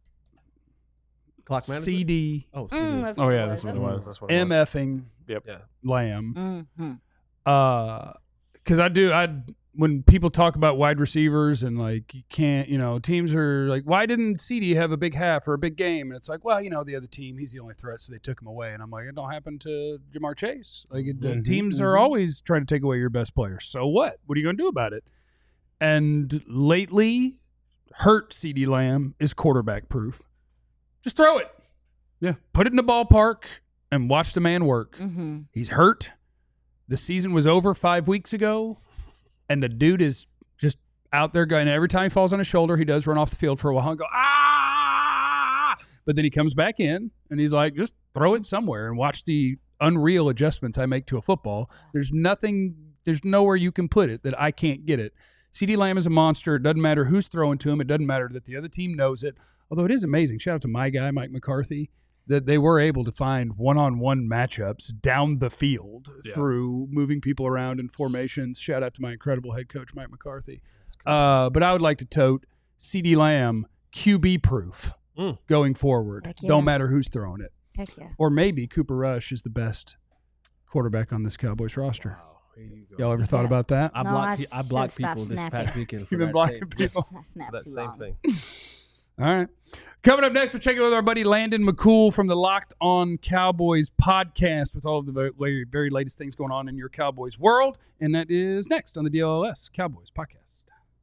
S4: Clock management?
S1: CD
S4: Oh, CD.
S2: That's
S3: Oh
S2: what it
S3: yeah,
S2: was.
S3: that's what it was. That's what it was.
S1: MFing
S3: Yep.
S4: Yeah.
S1: Lamb.
S2: Mhm.
S1: Because when people talk about wide receivers and like you can't, teams are like, why didn't CD have a big half or a big game? And it's like, well, the other team, he's the only threat, so they took him away. And I'm like, it don't happen to Jamar Chase. Like teams are always trying to take away your best player. So what? What are you going to do about it? And lately, hurt CD Lamb is quarterback proof. Just throw it.
S3: Yeah.
S1: Put it in the ballpark and watch the man work.
S2: Mm-hmm.
S1: He's hurt. The season was over 5 weeks ago, and the dude is just out there going. Every time he falls on his shoulder, he does run off the field for a while and go, ah! But then he comes back in, and he's like, just throw it somewhere and watch the unreal adjustments I make to a football. There's nowhere you can put it that I can't get it. CeeDee Lamb is a monster. It doesn't matter who's throwing to him. It doesn't matter that the other team knows it. Although it is amazing. Shout out to my guy, Mike McCarthy, that they were able to find one-on-one matchups down the field through moving people around in formations. Shout out to my incredible head coach, Mike McCarthy. But I would like to tote CeeDee Lamb QB proof going forward. Don't matter who's throwing it.
S2: Heck yeah.
S1: Or maybe Cooper Rush is the best quarterback on this Cowboys roster.
S4: Wow.
S1: Y'all ever thought about that?
S4: I blocked people this past weekend for
S1: You've been blocking people?
S4: that same thing.
S1: All right. Coming up next, we're checking with our buddy Landon McCool from the Locked On Cowboys podcast with all of the very, very latest things going on in your Cowboys world. And that is next on the DLLS Cowboys podcast.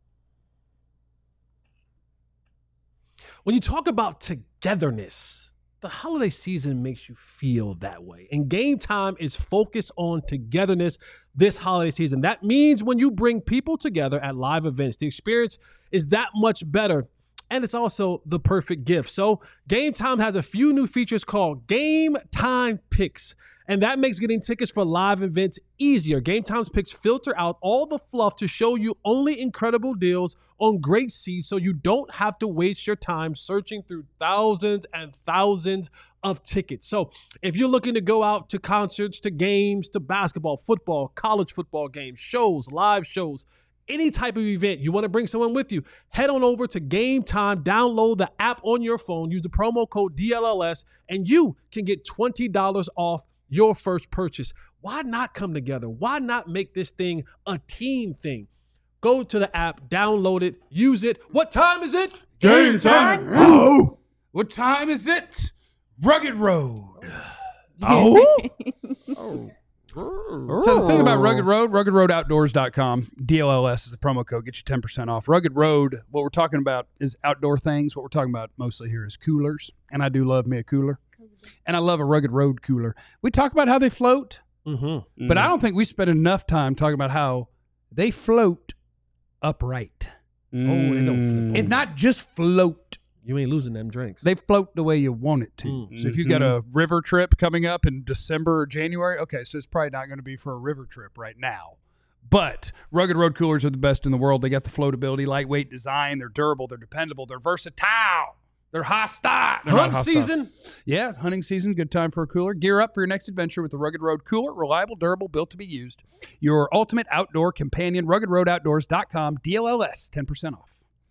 S4: When you talk about togetherness, the holiday season makes you feel that way. And Game Time is focused on togetherness this holiday season. That means when you bring people together at live events, the experience is that much better. And it's also the perfect gift. So Game Time has a few new features called Game Time Picks. And that makes getting tickets for live events easier. Game Time's picks filter out all the fluff to show you only incredible deals on great seats so you don't have to waste your time searching through thousands and thousands of tickets. So if you're looking to go out to concerts, to games, to basketball, football, college football games, shows, live shows, any type of event, you want to bring someone with you, head on over to Game Time, download the app on your phone, use the promo code DLLS, and you can get $20 off your first purchase. Why not come together? Why not make this thing a team thing? Go to the app, download it, use it. What time is it?
S1: Game time. Oh. What time is it? Rugged Road. Oh. So the thing about Rugged Road, ruggedroadoutdoors.com, DLLS is the promo code, get you 10% off. Rugged Road, what we're talking about is outdoor things. What we're talking about mostly here is coolers, and I do love me a cooler. And I love a Rugged Road cooler. We talk about how they float, but I don't think we spend enough time talking about how they float upright.
S4: Oh, they don't flip.
S1: It's not just float.
S4: You ain't losing them drinks.
S1: They float the way you want it to. So if you got a river trip coming up in December or January, okay, so it's probably not going to be for a river trip right now. But Rugged Road coolers are the best in the world. They got the floatability, lightweight design. They're durable. They're dependable. They're versatile. They're hostile.
S4: Hunt season?
S1: Yeah, hunting season. Good time for a cooler. Gear up for your next adventure with the Rugged Road cooler. Reliable, durable, built to be used. Your ultimate outdoor companion. RuggedRoadOutdoors.com. DLLS, 10% off.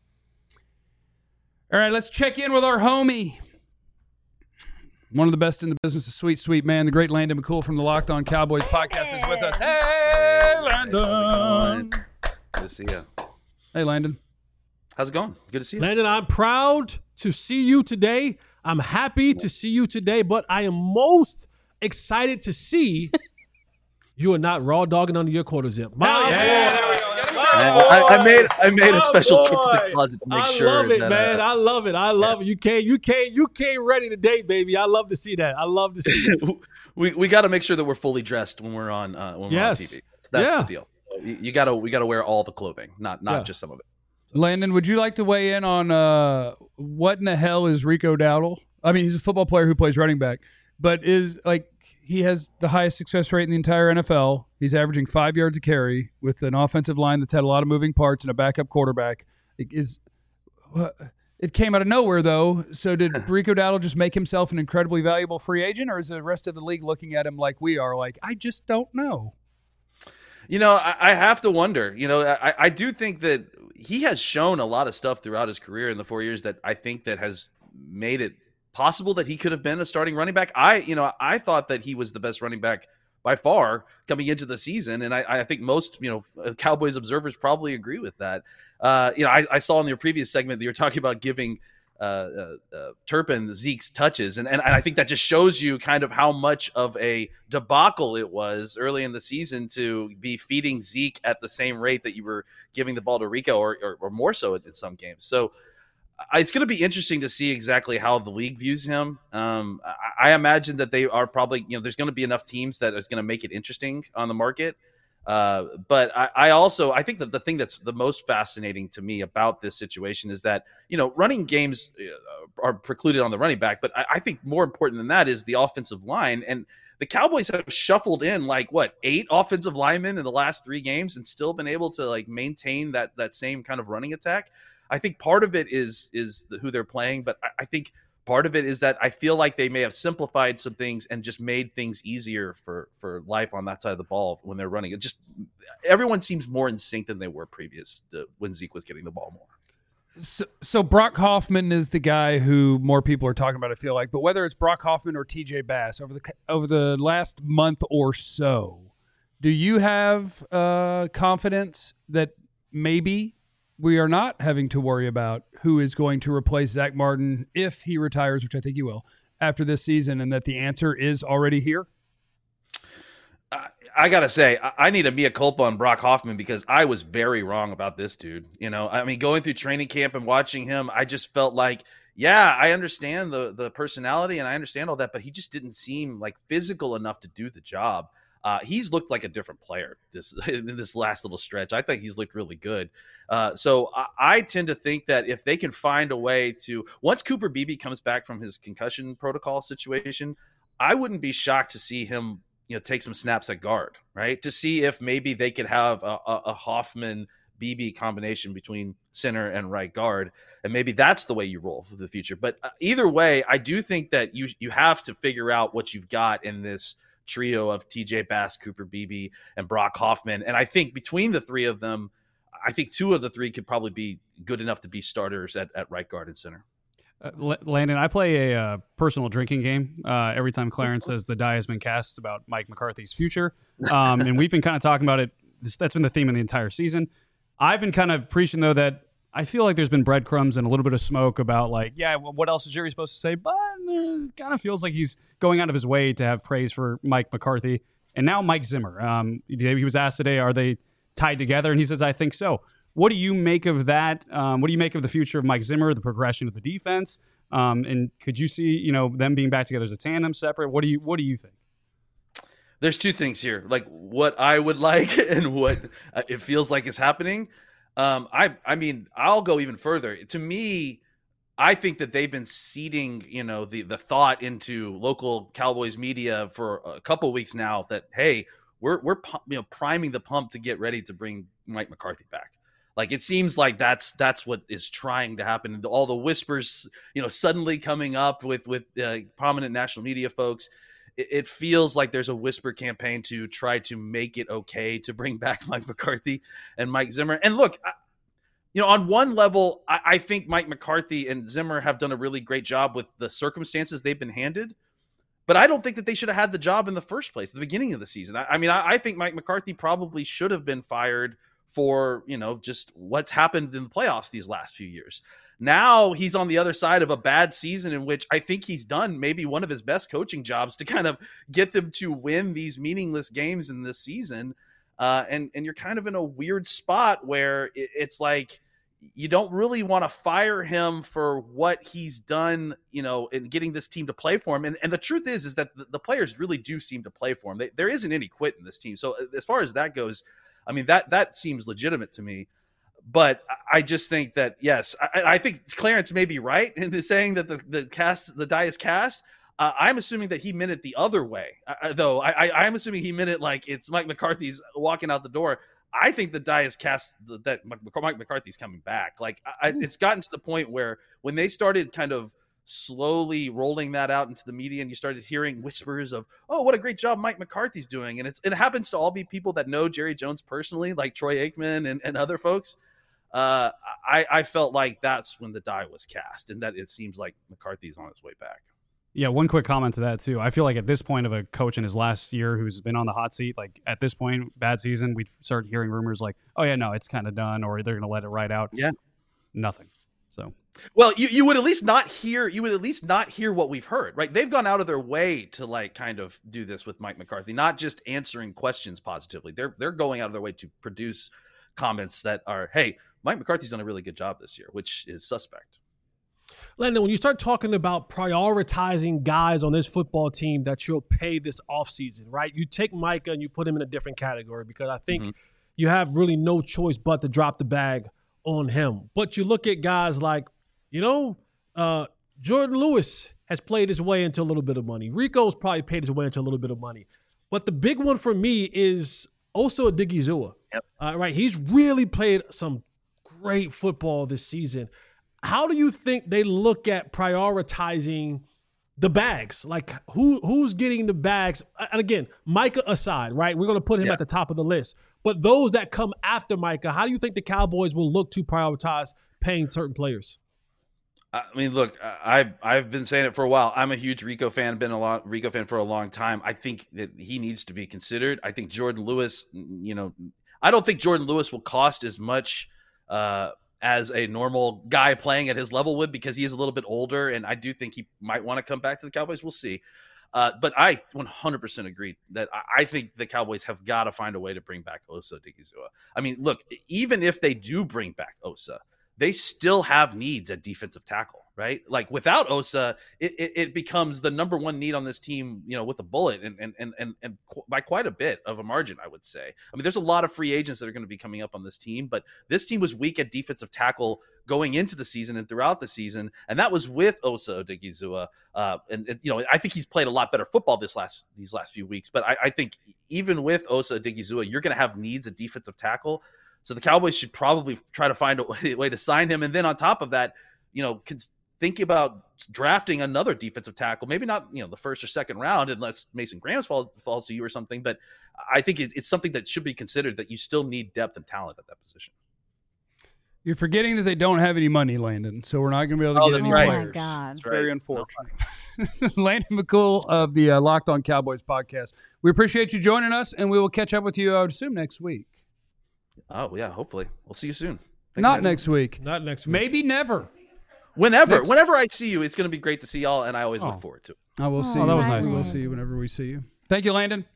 S1: All right, let's check in with our homie. One of the best in the business, a sweet, sweet man, the great Landon McCool from the Locked On Cowboys podcast is with us. Hey, Landon.
S6: Good to see you.
S1: Hey, Landon.
S6: How's it going? Good to see you.
S4: Landon, I'm proud to see you today. I'm happy to see you today, but I am most excited to see you are not raw dogging under your quarter zip.
S1: There we go.
S6: I made a special trip to the closet to make sure.
S4: I love it,
S6: that,
S4: man. I love it. I love it. You came ready today, baby. I love to see that. I love to see it.
S6: we got to make sure that we're fully dressed when we're on on TV. That's the deal. We got to wear all the clothing, not just some of it.
S1: So. Landon, would you like to weigh in on what in the hell is Rico Dowdle? I mean, he's a football player who plays running back, but he has the highest success rate in the entire NFL. He's averaging 5 yards a carry with an offensive line that's had a lot of moving parts and a backup quarterback. It came out of nowhere, though. So did Rico Dowdle just make himself an incredibly valuable free agent, or is the rest of the league looking at him like we are? Like, I just don't know.
S6: You know, I have to wonder. You know, I do think that he has shown a lot of stuff throughout his career in the 4 years that I think that has made it possible that he could have been a starting running back. I thought that he was the best running back by far coming into the season, and I think most Cowboys observers probably agree with that. I saw in your previous segment that you were talking about giving Turpin Zeke's touches, and I think that just shows you kind of how much of a debacle it was early in the season to be feeding Zeke at the same rate that you were giving the ball to Rico, or more so in some games. So it's going to be interesting to see exactly how the league views him. I imagine that they are probably, there's going to be enough teams that is going to make it interesting on the market. But I think that the thing that's the most fascinating to me about this situation is that, running games are precluded on the running back. But I think more important than that is the offensive line. And the Cowboys have shuffled in 8 offensive linemen in the last 3 games and still been able to maintain that same kind of running attack. I think part of it is who they're playing, but I think part of it is that I feel like they may have simplified some things and just made things easier for life on that side of the ball when they're running. It just, everyone seems more in sync than they were previous to when Zeke was getting the ball more.
S1: So Brock Hoffman is the guy who more people are talking about, I feel like. But whether it's Brock Hoffman or TJ Bass over the last month or so, do you have confidence that maybe we are not having to worry about who is going to replace Zach Martin if he retires, which I think he will, after this season, and that the answer is already here?
S6: I got to say, I need a mea culpa on Brock Hoffman because I was very wrong about this dude. Going through training camp and watching him, I just felt like, yeah, I understand the personality and I understand all that, but he just didn't seem physical enough to do the job. He's looked like a different player in this last little stretch. I think he's looked really good. So I tend to think that if they can find a way to, once Cooper Beebe comes back from his concussion protocol situation, I wouldn't be shocked to see him take some snaps at guard, right? To see if maybe they could have a Hoffman Beebe combination between center and right guard. And maybe that's the way you roll for the future. But either way, I do think that you have to figure out what you've got in this trio of TJ Bass, Cooper Beebe, and Brock Hoffman. And I think between the 3 of them, I think 2 of the 3 could probably be good enough to be starters at right guard and center.
S3: Landon, I play a personal drinking game every time Clarence says the die has been cast about Mike McCarthy's future. And we've been kind of talking about it. That's been the theme of the entire season. I've been kind of preaching, though, that I feel like there's been breadcrumbs and a little bit of smoke about what else is Jerry supposed to say? But it kind of feels like he's going out of his way to have praise for Mike McCarthy. And now Mike Zimmer. He was asked today, are they tied together? And he says, I think so. What do you make of that? What do you make of the future of Mike Zimmer, the progression of the defense? And could you see, them being back together as a tandem, separate? What do you think?
S6: There's 2 things here, what I would like and what it feels like is happening. I'll go even further. To me, I think that they've been seeding, the thought into local Cowboys media for a couple of weeks now that, hey, we're priming the pump to get ready to bring Mike McCarthy back. It seems like that's what is trying to happen. All the whispers, suddenly coming up with prominent national media folks. It feels like there's a whisper campaign to try to make it okay to bring back Mike McCarthy and Mike Zimmer. And look, on one level, I think Mike McCarthy and Zimmer have done a really great job with the circumstances they've been handed. But I don't think that they should have had the job in the first place at the beginning of the season. I think Mike McCarthy probably should have been fired for, just what's happened in the playoffs these last few years. Now he's on the other side of a bad season in which I think he's done maybe one of his best coaching jobs to kind of get them to win these meaningless games in this season. And you're kind of in a weird spot where it's like, you don't really want to fire him for what he's done, in getting this team to play for him. And the truth is that the players really do seem to play for him. There isn't any quit in this team. So as far as that goes, that seems legitimate to me. But I just think that, yes, I think Clarence may be right in saying that the die is cast. I'm assuming that he meant it the other way, though. I'm assuming he meant it like it's Mike McCarthy's walking out the door. I think the die is cast that Mike McCarthy's coming back. It's gotten to the point where when they started kind of slowly rolling that out into the media and you started hearing whispers of, oh, what a great job Mike McCarthy's doing. And it happens to all be people that know Jerry Jones personally, like Troy Aikman and other folks. I felt like that's when the die was cast and that it seems like McCarthy's on his way back.
S3: Yeah, one quick comment to that, too. I feel like at this point of a coach in his last year who's been on the hot seat, at this point, bad season, we started hearing rumors like, oh, yeah, no, it's kind of done, or they're going to let it ride out.
S6: Yeah.
S3: Nothing. So.
S6: Well, you would at least not hear what we've heard, right? They've gone out of their way to kind of do this with Mike McCarthy, not just answering questions positively. They're going out of their way to produce comments that are, hey, Mike McCarthy's done a really good job this year, which is suspect.
S4: Landon, when you start talking about prioritizing guys on this football team that you'll pay this offseason, right? You take Micah and you put him in a different category because I think you have really no choice but to drop the bag on him. But you look at guys like, Jordan Lewis has played his way into a little bit of money. Rico's probably paid his way into a little bit of money. But the big one for me is Osa Odigizua.
S6: Yep.
S4: Right, he's really played some great football this season. How do you think they look at prioritizing the bags? Like who's getting the bags? And again, Micah aside, right? We're going to put him at the top of the list. But those that come after Micah, how do you think the Cowboys will look to prioritize paying certain players?
S6: I mean, look, I've been saying it for a while. I'm a huge Rico fan, Rico fan for a long time. I think that he needs to be considered. I think Jordan Lewis, I don't think Jordan Lewis will cost as much as a normal guy playing at his level would, because he is a little bit older, and I do think he might want to come back to the Cowboys. We'll see. But I 100% agree that I think the Cowboys have got to find a way to bring back Osa Odigizua. I mean, look, even if they do bring back Osa, they still have needs at defensive tackle, right? Like without Osa, it becomes the number one need on this team, with a bullet and by quite a bit of a margin, I would say. I mean, there's a lot of free agents that are going to be coming up on this team, but this team was weak at defensive tackle going into the season and throughout the season, and that was with Osa Odigizua. And I think he's played a lot better football these last few weeks, but I think even with Osa Odigizua, you're going to have needs at defensive tackle. So the Cowboys should probably try to find a way to sign him. And then on top of that, think about drafting another defensive tackle, maybe not, the first or second round, unless Mason Graham falls to you or something. But I think it's something that should be considered, that you still need depth and talent at that position.
S1: You're forgetting that they don't have any money, Landon. So we're not going to be able to get any players.
S2: Oh, my God.
S1: It's very unfortunate. Landon McCool of the Locked On Cowboys podcast. We appreciate you joining us, and we will catch up with you, I would assume, next week.
S6: Oh, yeah, hopefully. We'll see you soon. Thanks,
S1: Not
S6: guys.
S1: next week.
S4: Not next week.
S1: Maybe never.
S6: Whenever I see you, it's going to be great to see y'all, and I always look forward to it.
S1: I will see you.
S3: That was nice.
S1: We'll see you whenever we see you. Thank you, Landon.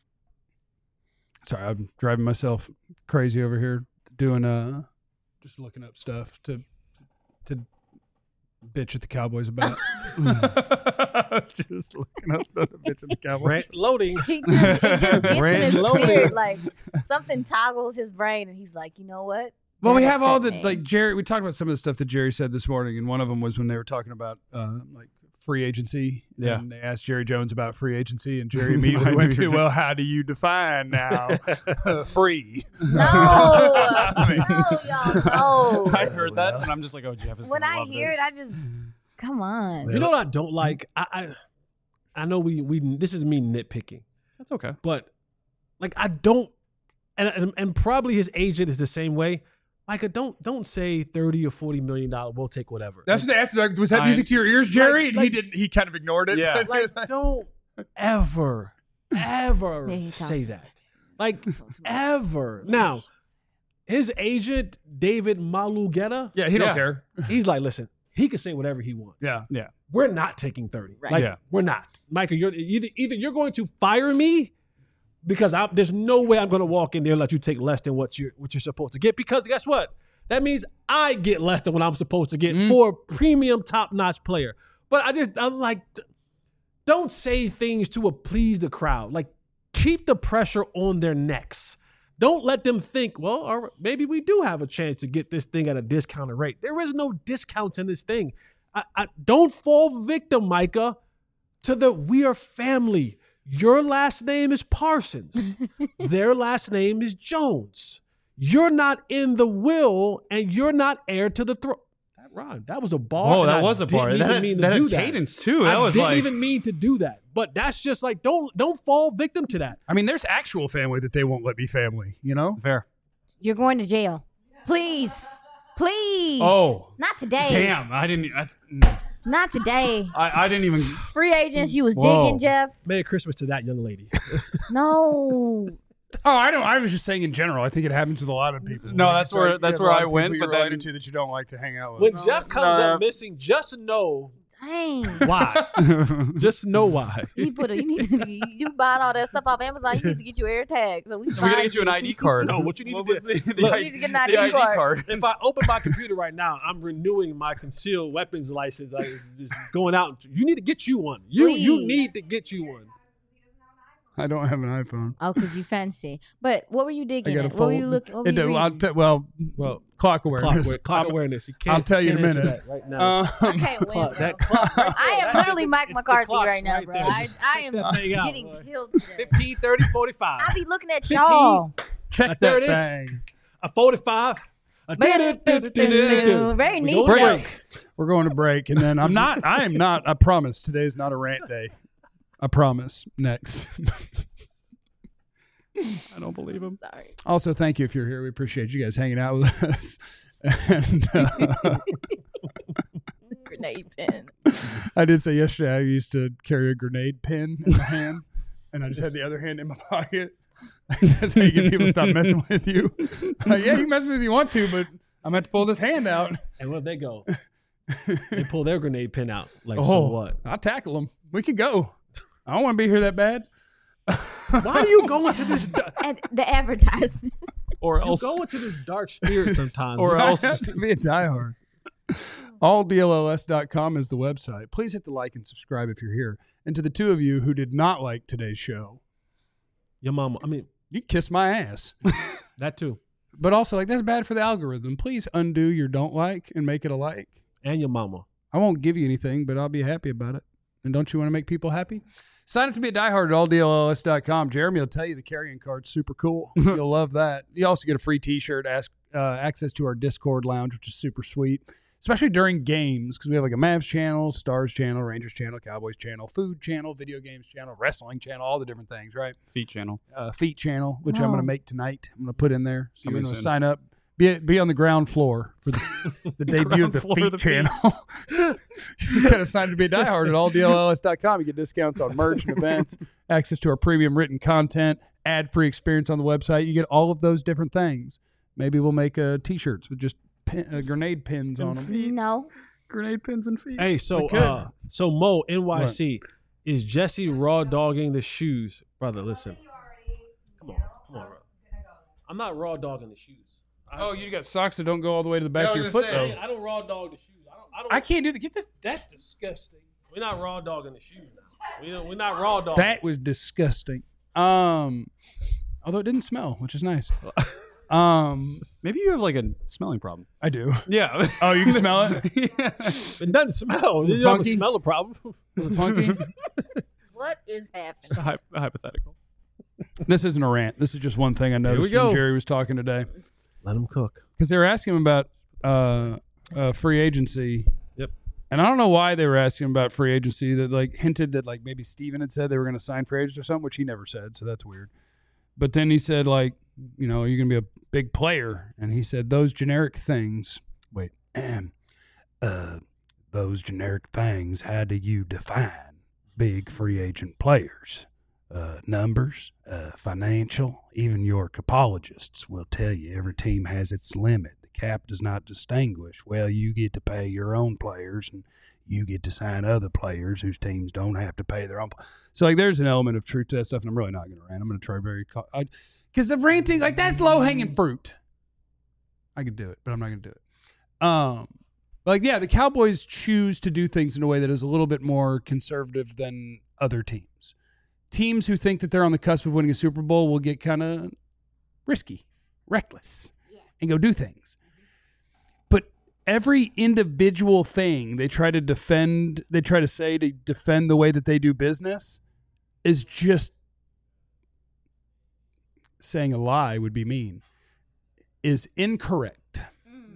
S1: Sorry, I'm driving myself crazy over here doing just looking up stuff to bitch at the Cowboys about. Just looking up stuff to bitch at the Cowboys.
S4: Loading.
S2: It just gets in his
S4: Loading.
S2: spirit. Like something toggles his brain, and he's like, you know what?
S1: Well, we
S2: That
S1: have all
S2: upset
S1: the
S2: me.
S1: like Jerry. We talked about some of the stuff that Jerry said this morning, and one of them was when they were talking about like free agency.
S3: Yeah.
S1: And they asked Jerry Jones about free agency, and Jerry immediately went to, "Well, how do you define now free?"
S2: No, y'all, no.
S3: I heard that, and I'm just like, oh, Jeff is
S2: When
S3: gonna
S2: I
S3: love
S2: hear
S3: this.
S2: it, I just come on.
S4: You know what I don't like? I know we this is me nitpicking,
S3: That's okay.
S4: but like I don't, and probably his agent is the same way. Micah, don't say $30 or $40 million. We'll take whatever.
S1: That's what they asked. Like, was that music to your ears, Jerry? And he didn't. He kind of ignored it.
S3: Yeah.
S4: Like, don't ever
S2: Yeah, he
S4: say
S2: talks
S4: that. Like, ever. Now, his agent, David Malugeta,
S1: Yeah, he don't
S3: Yeah.
S1: care.
S4: he's like, listen, he can say whatever he wants.
S1: Yeah.
S3: Yeah.
S4: We're not taking 30.
S2: Right.
S4: Like,
S3: Yeah.
S4: we're not. Micah, you're either you're going to fire me because there's no way I'm going to walk in there and let you take less than what you're supposed to get, because guess what? That means I get less than what I'm supposed to get for a premium top-notch player. But I'm like, don't say things to please the crowd. Like, keep the pressure on their necks. Don't let them think, well, all right, maybe we do have a chance to get this thing at a discounted rate. There is no discounts in this thing. I don't fall victim, Micah, to the we are family. Your last name is Parsons. Their last name is Jones. You're not in the will, and you're not heir to the throne. That rhymed. That was a bar.
S3: Oh,
S4: and
S3: that
S4: I
S3: was a bar.
S4: didn't even mean to do that.
S3: Cadence too. That
S4: I
S3: was
S4: didn't
S3: like
S4: even mean to do that. But that's just like don't fall victim to that.
S1: I mean, there's actual family that they won't let be family. You know.
S3: fair.
S2: You're going to jail. Please.
S3: Oh,
S2: Not today.
S3: damn! I didn't
S2: today.
S3: I didn't even.
S2: Free agents, you was
S3: Whoa.
S2: digging, Jeff.
S4: Merry Christmas to that young lady.
S2: No.
S1: Oh, I don't. I was just saying in general. I think it happens with a lot of people.
S3: No,
S1: Like,
S3: that's
S1: so
S3: where-
S1: you
S3: that's
S1: have a
S3: where
S1: lot
S3: I
S1: of
S3: went,
S1: people
S3: but
S1: you're
S3: then-
S1: related to that you don't like to hang out with.
S4: When Jeff comes up missing, just know
S2: Dang.
S4: why. Just know why.
S2: You buying all that stuff off Amazon, you need to get your air tag. So we
S3: gotta get you an ID card.
S4: No, what you need to
S3: was
S4: do.
S3: the
S4: Look,
S2: You need to get an
S3: the
S2: ID card.
S4: If I open my computer right now, I'm renewing my concealed weapons license. It's just going out. You need to get you one. You
S2: Please.
S4: need to get you one.
S1: I don't have an iPhone.
S2: Oh, because you fancy. But what were you digging at? What were you looking? What were you reading?
S1: Well, clock awareness.
S4: Clock awareness. You can't,
S1: I'll tell you in a minute.
S4: That right now.
S2: I can't win.
S4: That clock right
S2: I am literally Mike McCarthy right now,
S4: right
S2: bro.
S4: there.
S2: I am
S4: out,
S2: getting
S4: boy.
S2: killed today.
S4: 15, 30, 45.
S2: I be looking at
S4: 15.
S2: y'all.
S1: Check
S4: A
S1: that
S4: 30.
S1: thing.
S4: A 45. A
S2: Very
S4: We
S2: neat.
S4: go to
S1: Break. We're going to break, and then I am not. I promise. Today's not a rant day. I promise. Next.
S3: I don't believe him.
S2: Sorry.
S1: Also, thank you if you're here. We appreciate you guys hanging out with us. And
S2: Grenade pin.
S1: I did say yesterday I used to carry a grenade pin in my hand, and I just had the other hand in my pocket. That's how you get people to stop messing with you. Yeah, you can mess with me if you want to, but I'm going to have to pull this hand out.
S4: And where they go? They pull their grenade pin out. Like,
S1: Oh,
S4: so what?
S1: I'll tackle them. We can go. I don't want to be here that bad.
S4: Why do you go into this?
S2: And the advertisement.
S1: Or
S4: You
S1: else,
S4: go into this dark spirit sometimes.
S1: or else to be a diehard. AllDLLS.com is the website. Please hit the like and subscribe if you're here. And to the two of you who did not like today's show,
S4: Your mama. I mean,
S1: you kiss my ass.
S4: that too.
S1: But also, like, that's bad for the algorithm. Please undo your don't like and make it a like.
S4: And your mama.
S1: I won't give you anything, but I'll be happy about it. And don't you want to make people happy? Sign up to be a diehard at alldlls.com. Jeremy will tell you the carrying card's super cool. You'll love that. You also get a free t-shirt, access to our Discord lounge, which is super sweet, especially during games, because we have like a Mavs channel, Stars channel, Rangers channel, Cowboys channel, food channel, video games channel, wrestling channel, all the different things, right?
S3: Feet channel.
S1: Feet channel, which I'm going to make tonight. I'm going to put in there. So I'm going to
S3: soon.
S1: sign up. Be on the ground floor for the debut of the Feet channel. You just got to sign up to be a diehard at alldlls.com. You get discounts on merch and events, access to our premium written content, ad-free experience on the website. You get all of those different things. Maybe we'll make T-shirts with just grenade pins on them.
S2: No.
S3: Grenade pins and feet.
S4: Hey, so Mo, NYC, is Jesse raw dogging the shoes? Brother, listen. Come on, bro. I'm not raw dogging the shoes.
S1: Oh, you got socks that don't go all the way to the back of your foot, though.
S4: I don't raw dog the shoes.
S1: I can't do that. Get that. That's disgusting.
S4: We're not raw dogging the shoes now. We're not raw dogging.
S1: That was disgusting. Although it didn't smell, which is nice.
S3: Maybe you have like a smelling problem.
S1: I do.
S3: Yeah.
S1: Oh, you can smell it?
S4: It doesn't smell. You don't have a smell problem.
S1: Is it funky?
S2: What is happening?
S3: Hypothetical.
S1: This isn't a rant. This is just one thing I noticed when Jerry was talking today.
S4: Let him cook.
S1: Because they were asking him about free agency.
S4: Yep.
S1: And I don't know why they were asking him about free agency. That like hinted that like maybe Steven had said they were going to sign free agents or something, which he never said. So that's weird. But then he said like, you know, you're going to be a big player. And he said those generic things. Wait. Those generic things. How do you define big free agent players? Numbers, financial, even your capologists will tell you every team has its limit. The cap does not distinguish. Well, you get to pay your own players and you get to sign other players whose teams don't have to pay their own. So, like, there's an element of truth to that stuff, and I'm really not going to rant. I'm going to try because the ranting, like, that's low-hanging fruit. I could do it, but I'm not going to do it. Like, yeah, the Cowboys choose to do things in a way that is a little bit more conservative than other teams. Teams who think that they're on the cusp of winning a Super Bowl will get kind of risky, reckless, and go do things. But every individual thing they try to defend, they try to say to defend the way that they do business is just saying a lie would be mean, is incorrect.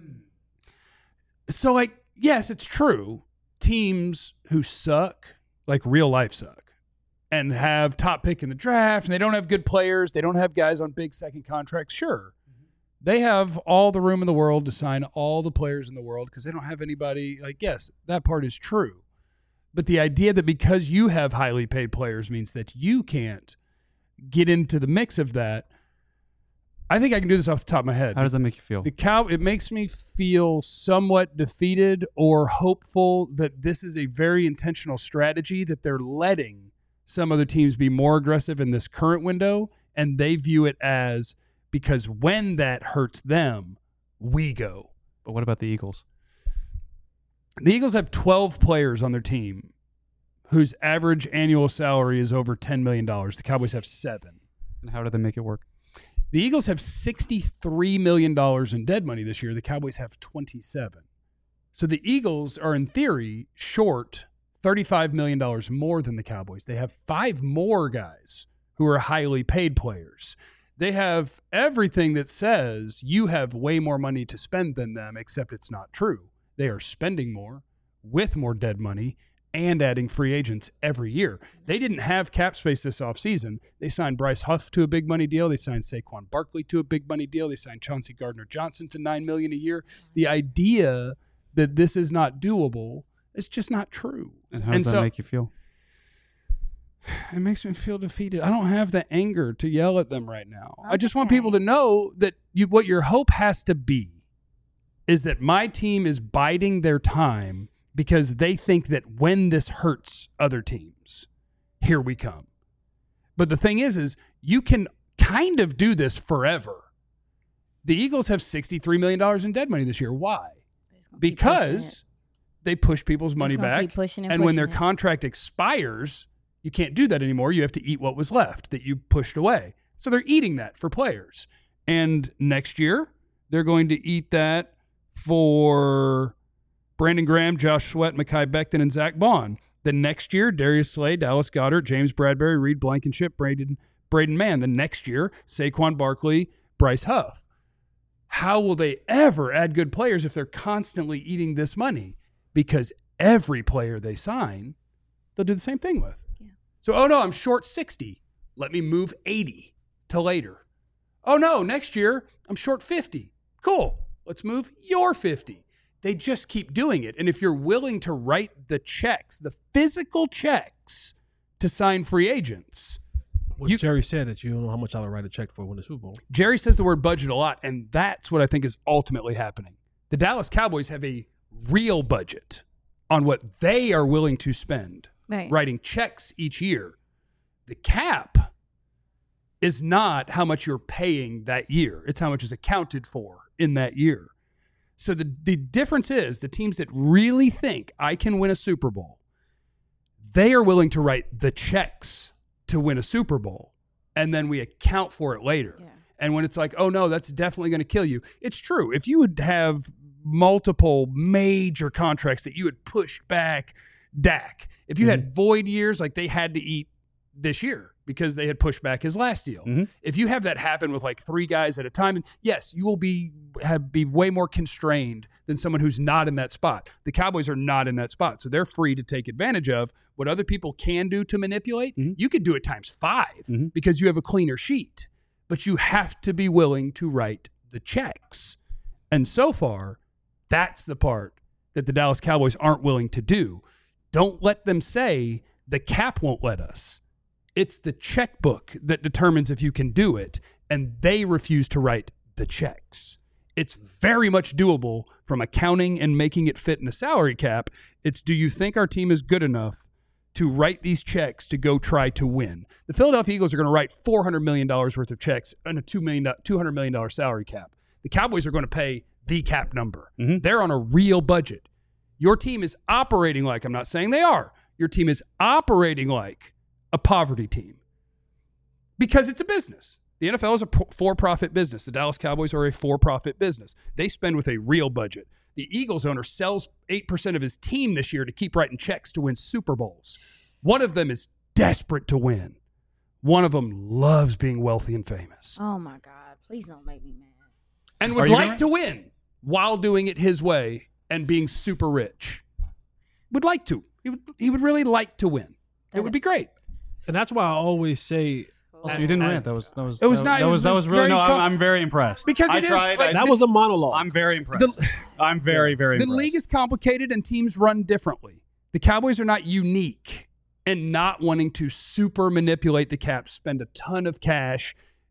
S1: So, like, yes, it's true. Teams who suck, like real life suck, and have top pick in the draft, and they don't have good players, they don't have guys on big second contracts, sure. They have all the room in the world to sign all the players in the world because they don't have anybody, like, yes, that part is true. But the idea that because you have highly paid players means that you can't get into the mix of that, I think I can do this off the top of my head.
S3: How does that make you feel?
S1: It makes me feel somewhat defeated or hopeful that this is a very intentional strategy that they're letting some other teams be more aggressive in this current window, and they view it as because when that hurts them, we go.
S3: But what about the Eagles?
S1: The Eagles have 12 players on their team whose average annual salary is over $10 million. The Cowboys have 7.
S3: And how do they make it work?
S1: The Eagles have $63 million in dead money this year. The Cowboys have 27. So the Eagles are, in theory, short $35 million more than the Cowboys. They have 5 more guys who are highly paid players. They have everything that says you have way more money to spend than them, except it's not true. They are spending more with more dead money and adding free agents every year. They didn't have cap space this offseason. They signed Bryce Huff to a big money deal. They signed Saquon Barkley to a big money deal. They signed Chauncey Gardner-Johnson to $9 million a year. The idea that this is not doable is just not true.
S3: And how does that make you feel?
S1: It makes me feel defeated. I don't have the anger to yell at them right now. I just want people to know that what your hope has to be is that my team is biding their time because they think that when this hurts other teams, here we come. But the thing is you can kind of do this forever. The Eagles have $63 million in dead money this year. Why? Because they push people's money back. And when their contract expires, you can't do that anymore. You have to eat what was left that you pushed away. So they're eating that for players. And next year, they're going to eat that for Brandon Graham, Josh Sweat, Mekhi Becton, and Zach Bond. The next year, Darius Slay, Dallas Goedert, James Bradbury, Reed Blankenship, Braden Mann. The next year, Saquon Barkley, Bryce Huff. How will they ever add good players if they're constantly eating this money? Because every player they sign, they'll do the same thing with. Yeah. So, oh no, I'm short 60. Let me move 80 to later. Oh no, next year, I'm short 50. Cool. Let's move your 50. They just keep doing it. And if you're willing to write the checks, the physical checks to sign free agents.
S4: Jerry said that you don't know how much I would write a check for when the Super Bowl.
S1: Jerry says the word budget a lot, and that's what I think is ultimately happening. The Dallas Cowboys have a real budget on what they are willing to spend, writing checks each year. The cap is not how much you're paying that year. It's how much is accounted for in that year. So the difference is the teams that really think I can win a Super Bowl, they are willing to write the checks to win a Super Bowl, and then we account for it later. Yeah. And when it's like, oh, no, that's definitely going to kill you. It's true. If you would have multiple major contracts that you had pushed back, Dak, if you had void years, like they had to eat this year because they had pushed back his last deal. Mm-hmm. If you have that happen with like 3 guys at a time, yes, you will be way more constrained than someone who's not in that spot. The Cowboys are not in that spot, so they're free to take advantage of what other people can do to manipulate. Mm-hmm. You could do it times 5 because you have a cleaner sheet, but you have to be willing to write the checks. And so far, that's the part that the Dallas Cowboys aren't willing to do. Don't let them say the cap won't let us. It's the checkbook that determines if you can do it, and they refuse to write the checks. It's very much doable from accounting and making it fit in a salary cap. It's, do you think our team is good enough to write these checks to go try to win? The Philadelphia Eagles are going to write $400 million worth of checks on a $200 million salary cap. The Cowboys are going to pay the cap number. Mm-hmm. They're on a real budget. Your team is operating like, I'm not saying they are, your team is operating like a poverty team because it's a business. The NFL is a for-profit business. The Dallas Cowboys are a for-profit business. They spend with a real budget. The Eagles owner sells 8% of his team this year to keep writing checks to win Super Bowls. One of them is desperate to win. One of them loves being wealthy and famous.
S2: Oh, my God. Please don't make me mad.
S1: And would like to win while doing it his way and being super rich. Would like to. He would really like to win. It would be great.
S4: And that's why I always say.
S3: Also, you didn't rant. That was
S1: really.
S3: I'm very impressed.
S1: Because
S4: that was a monologue.
S3: I'm very impressed. I'm very impressed.
S1: The league is complicated and teams run differently. The Cowboys are not unique in not wanting to super manipulate the cap, spend a ton of cash,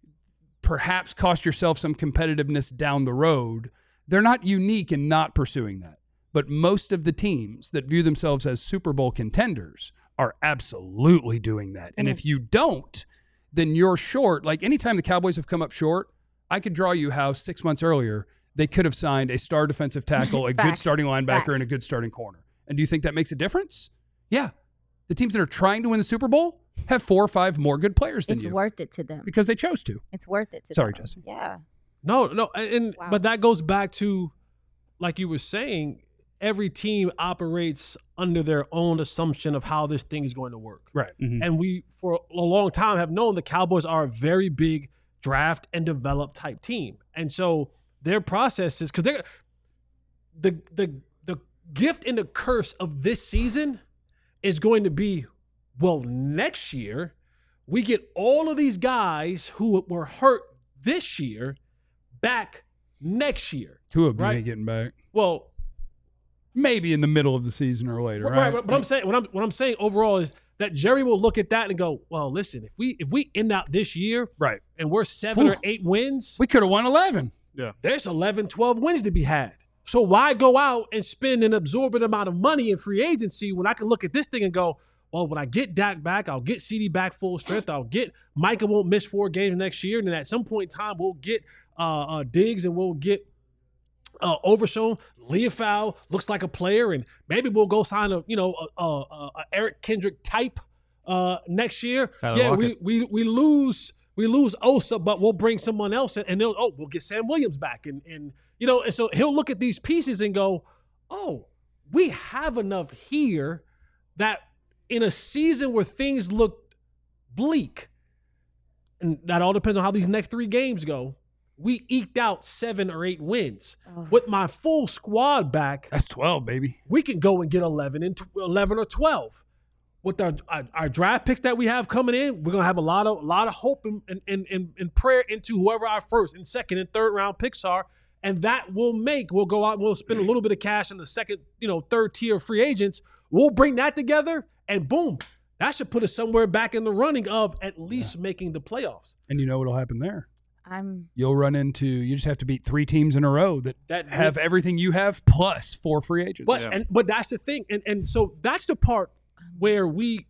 S1: perhaps cost yourself some competitiveness down the road. They're not unique in not pursuing that. But most of the teams that view themselves as Super Bowl contenders are absolutely doing that. And if you don't, then you're short. Like anytime the Cowboys have come up short, I could draw you how 6 months earlier they could have signed a star defensive tackle, a good starting linebacker, and a good starting corner. And do you think that makes a difference? Yeah. The teams that are trying to win the Super Bowl have 4 or 5 more good players than you.
S2: It's worth it to them.
S1: Because they chose to.
S2: It's worth it to them.
S1: Sorry, Jesse.
S2: Yeah.
S4: No, but that goes back to, like you were saying, every team operates under their own assumption of how this thing is going to work.
S1: Right.
S3: Mm-hmm.
S4: And we, for a long time, have known the Cowboys are a very big draft and develop type team. And so their process is, because they're the gift and the curse of this season is going to be, well, next year, we get all of these guys who were hurt this year back next year.
S1: Two of them
S4: right?
S1: ain't getting back.
S4: Well,
S1: maybe in the middle of the season or later, right?
S4: But I'm saying what I'm saying overall is that Jerry will look at that and go, well, listen, if we end out this year,
S1: right,
S4: and we're 7 or 8 wins,
S1: we could have won 11.
S3: Yeah,
S4: there's 11, 12 wins to be had. So why go out and spend an absorbent amount of money in free agency when I can look at this thing and go, well, when I get Dak back, I'll get CD back full strength. I'll get Micah won't miss 4 games next year, and then at some point in time we'll get Diggs and we'll get Overshown. Leofau looks like a player, and maybe we'll go sign a Eric Kendrick type next year.
S3: Tyler Lockett.
S4: we lose Osa, but we'll bring someone else in, and we'll get Sam Williams back, and so he'll look at these pieces and go, oh, we have enough here that in a season where things looked bleak, and that all depends on how these next 3 games go, we eked out 7 or 8 wins.
S2: Oh.
S4: With my full squad back,
S1: That's 12, baby.
S4: we can go and get 11 or 12. With our draft picks that we have coming in, we're gonna have a lot of hope and prayer into whoever our first and second and third round picks are, and that we'll go out and we'll spend a little bit of cash in the second, third tier of free agents. We'll bring that together, and boom, that should put us somewhere back in the running of at least making the playoffs.
S1: And you know what'll happen there? You just have to beat 3 teams in a row that have everything you have plus 4 free agents.
S4: But that's the thing, and so that's the part where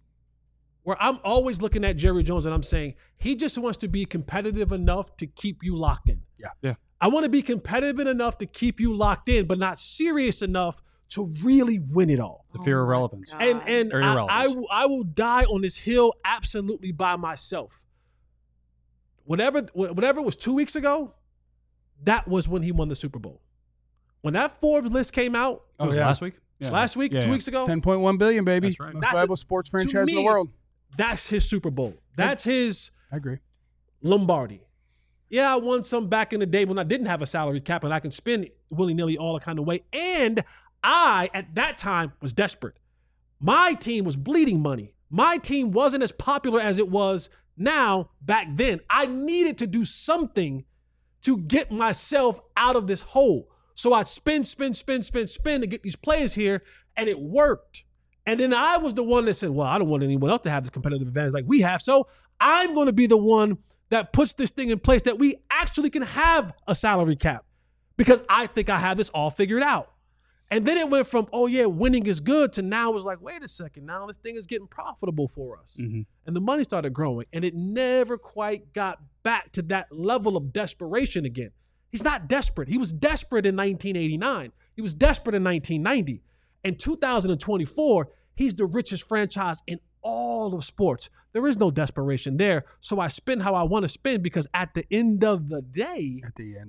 S4: I'm always looking at Jerry Jones and I'm saying he just wants to be competitive enough to keep you locked in.
S1: Yeah.
S4: I want to be competitive enough to keep you locked in, but not serious enough to really win it all.
S3: It's a fear of relevance.
S4: And I will die on this hill absolutely by myself. Whatever was 2 weeks ago, that was when he won the Super Bowl. When that Forbes list came out,
S3: last week?
S4: Yeah. Last week, 2 weeks ago,
S1: $10.1 billion, baby.
S3: That's right.
S1: Most valuable sports franchise in the world.
S4: That's his Super Bowl. That's his
S1: I agree.
S4: Lombardi. Yeah, I won some back in the day when I didn't have a salary cap and I can spend willy-nilly all the kind of way. And I, at that time, was desperate. My team was bleeding money. My team wasn't as popular as it was now back then. I needed to do something to get myself out of this hole. So I'd spend to get these players here, and it worked. And then I was the one that said, well, I don't want anyone else to have this competitive advantage like we have. So I'm going to be the one that puts this thing in place that we actually can have a salary cap because I think I have this all figured out. And then it went from, oh, yeah, winning is good to now it was like, wait a second, now this thing is getting profitable for us. Mm-hmm. And the money started growing, and it never quite got back to that level of desperation again. He's not desperate. He was desperate in 1989. He was desperate in 1990. In 2024, he's the richest franchise in all of sports. There is no desperation there. So I spend how I want to spend because at the end of the day,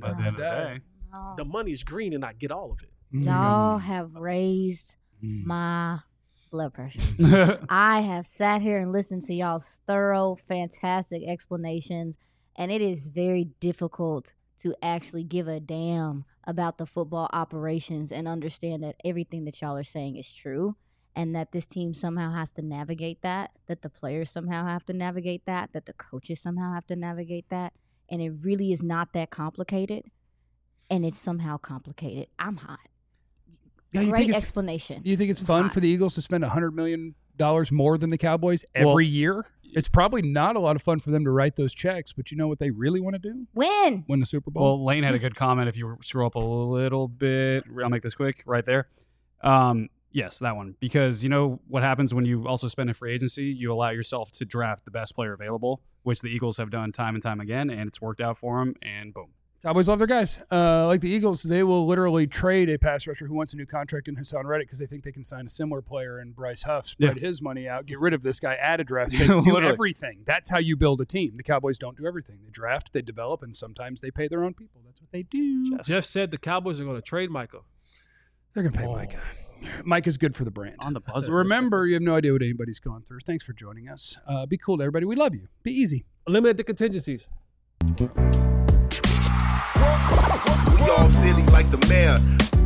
S4: the money is green and I get all of it.
S2: Y'all have raised my blood pressure. I have sat here and listened to y'all's thorough, fantastic explanations, and it is very difficult to actually give a damn about the football operations and understand that everything that y'all are saying is true and that this team somehow has to navigate that the players somehow have to navigate that the coaches somehow have to navigate that. And it really is not that complicated, and it's somehow complicated. I'm hot.
S1: Yeah,
S2: Great explanation.
S1: Do you think it's fun for the Eagles to spend $100 million more than the Cowboys every year? It's probably not a lot of fun for them to write those checks, but you know what they really want to do?
S2: Win
S1: the Super Bowl.
S3: Well, Lane had a good comment. If you scroll up a little bit, I'll make this quick right there. Yes, that one. Because you know what happens when you also spend a free agency? You allow yourself to draft the best player available, which the Eagles have done time and time again, and it's worked out for them, and boom.
S1: Cowboys love their guys. Like the Eagles, they will literally trade a pass rusher who wants a new contract in Hassan Reddick because they think they can sign a similar player in Bryce Huff, spread his money out, get rid of this guy, add a draft pick, do everything. That's how you build a team. The Cowboys don't do everything. They draft, they develop, and sometimes they pay their own people. That's what they do.
S4: Jeff said the Cowboys are going to trade Micah.
S1: They're going to pay Micah. Micah's good for the brand.
S3: On the buzzer.
S1: Remember, you have no idea what anybody's going through. Thanks for joining us. Be cool to everybody. We love you. Be easy.
S4: Eliminate the contingencies.
S7: We all silly like the mayor.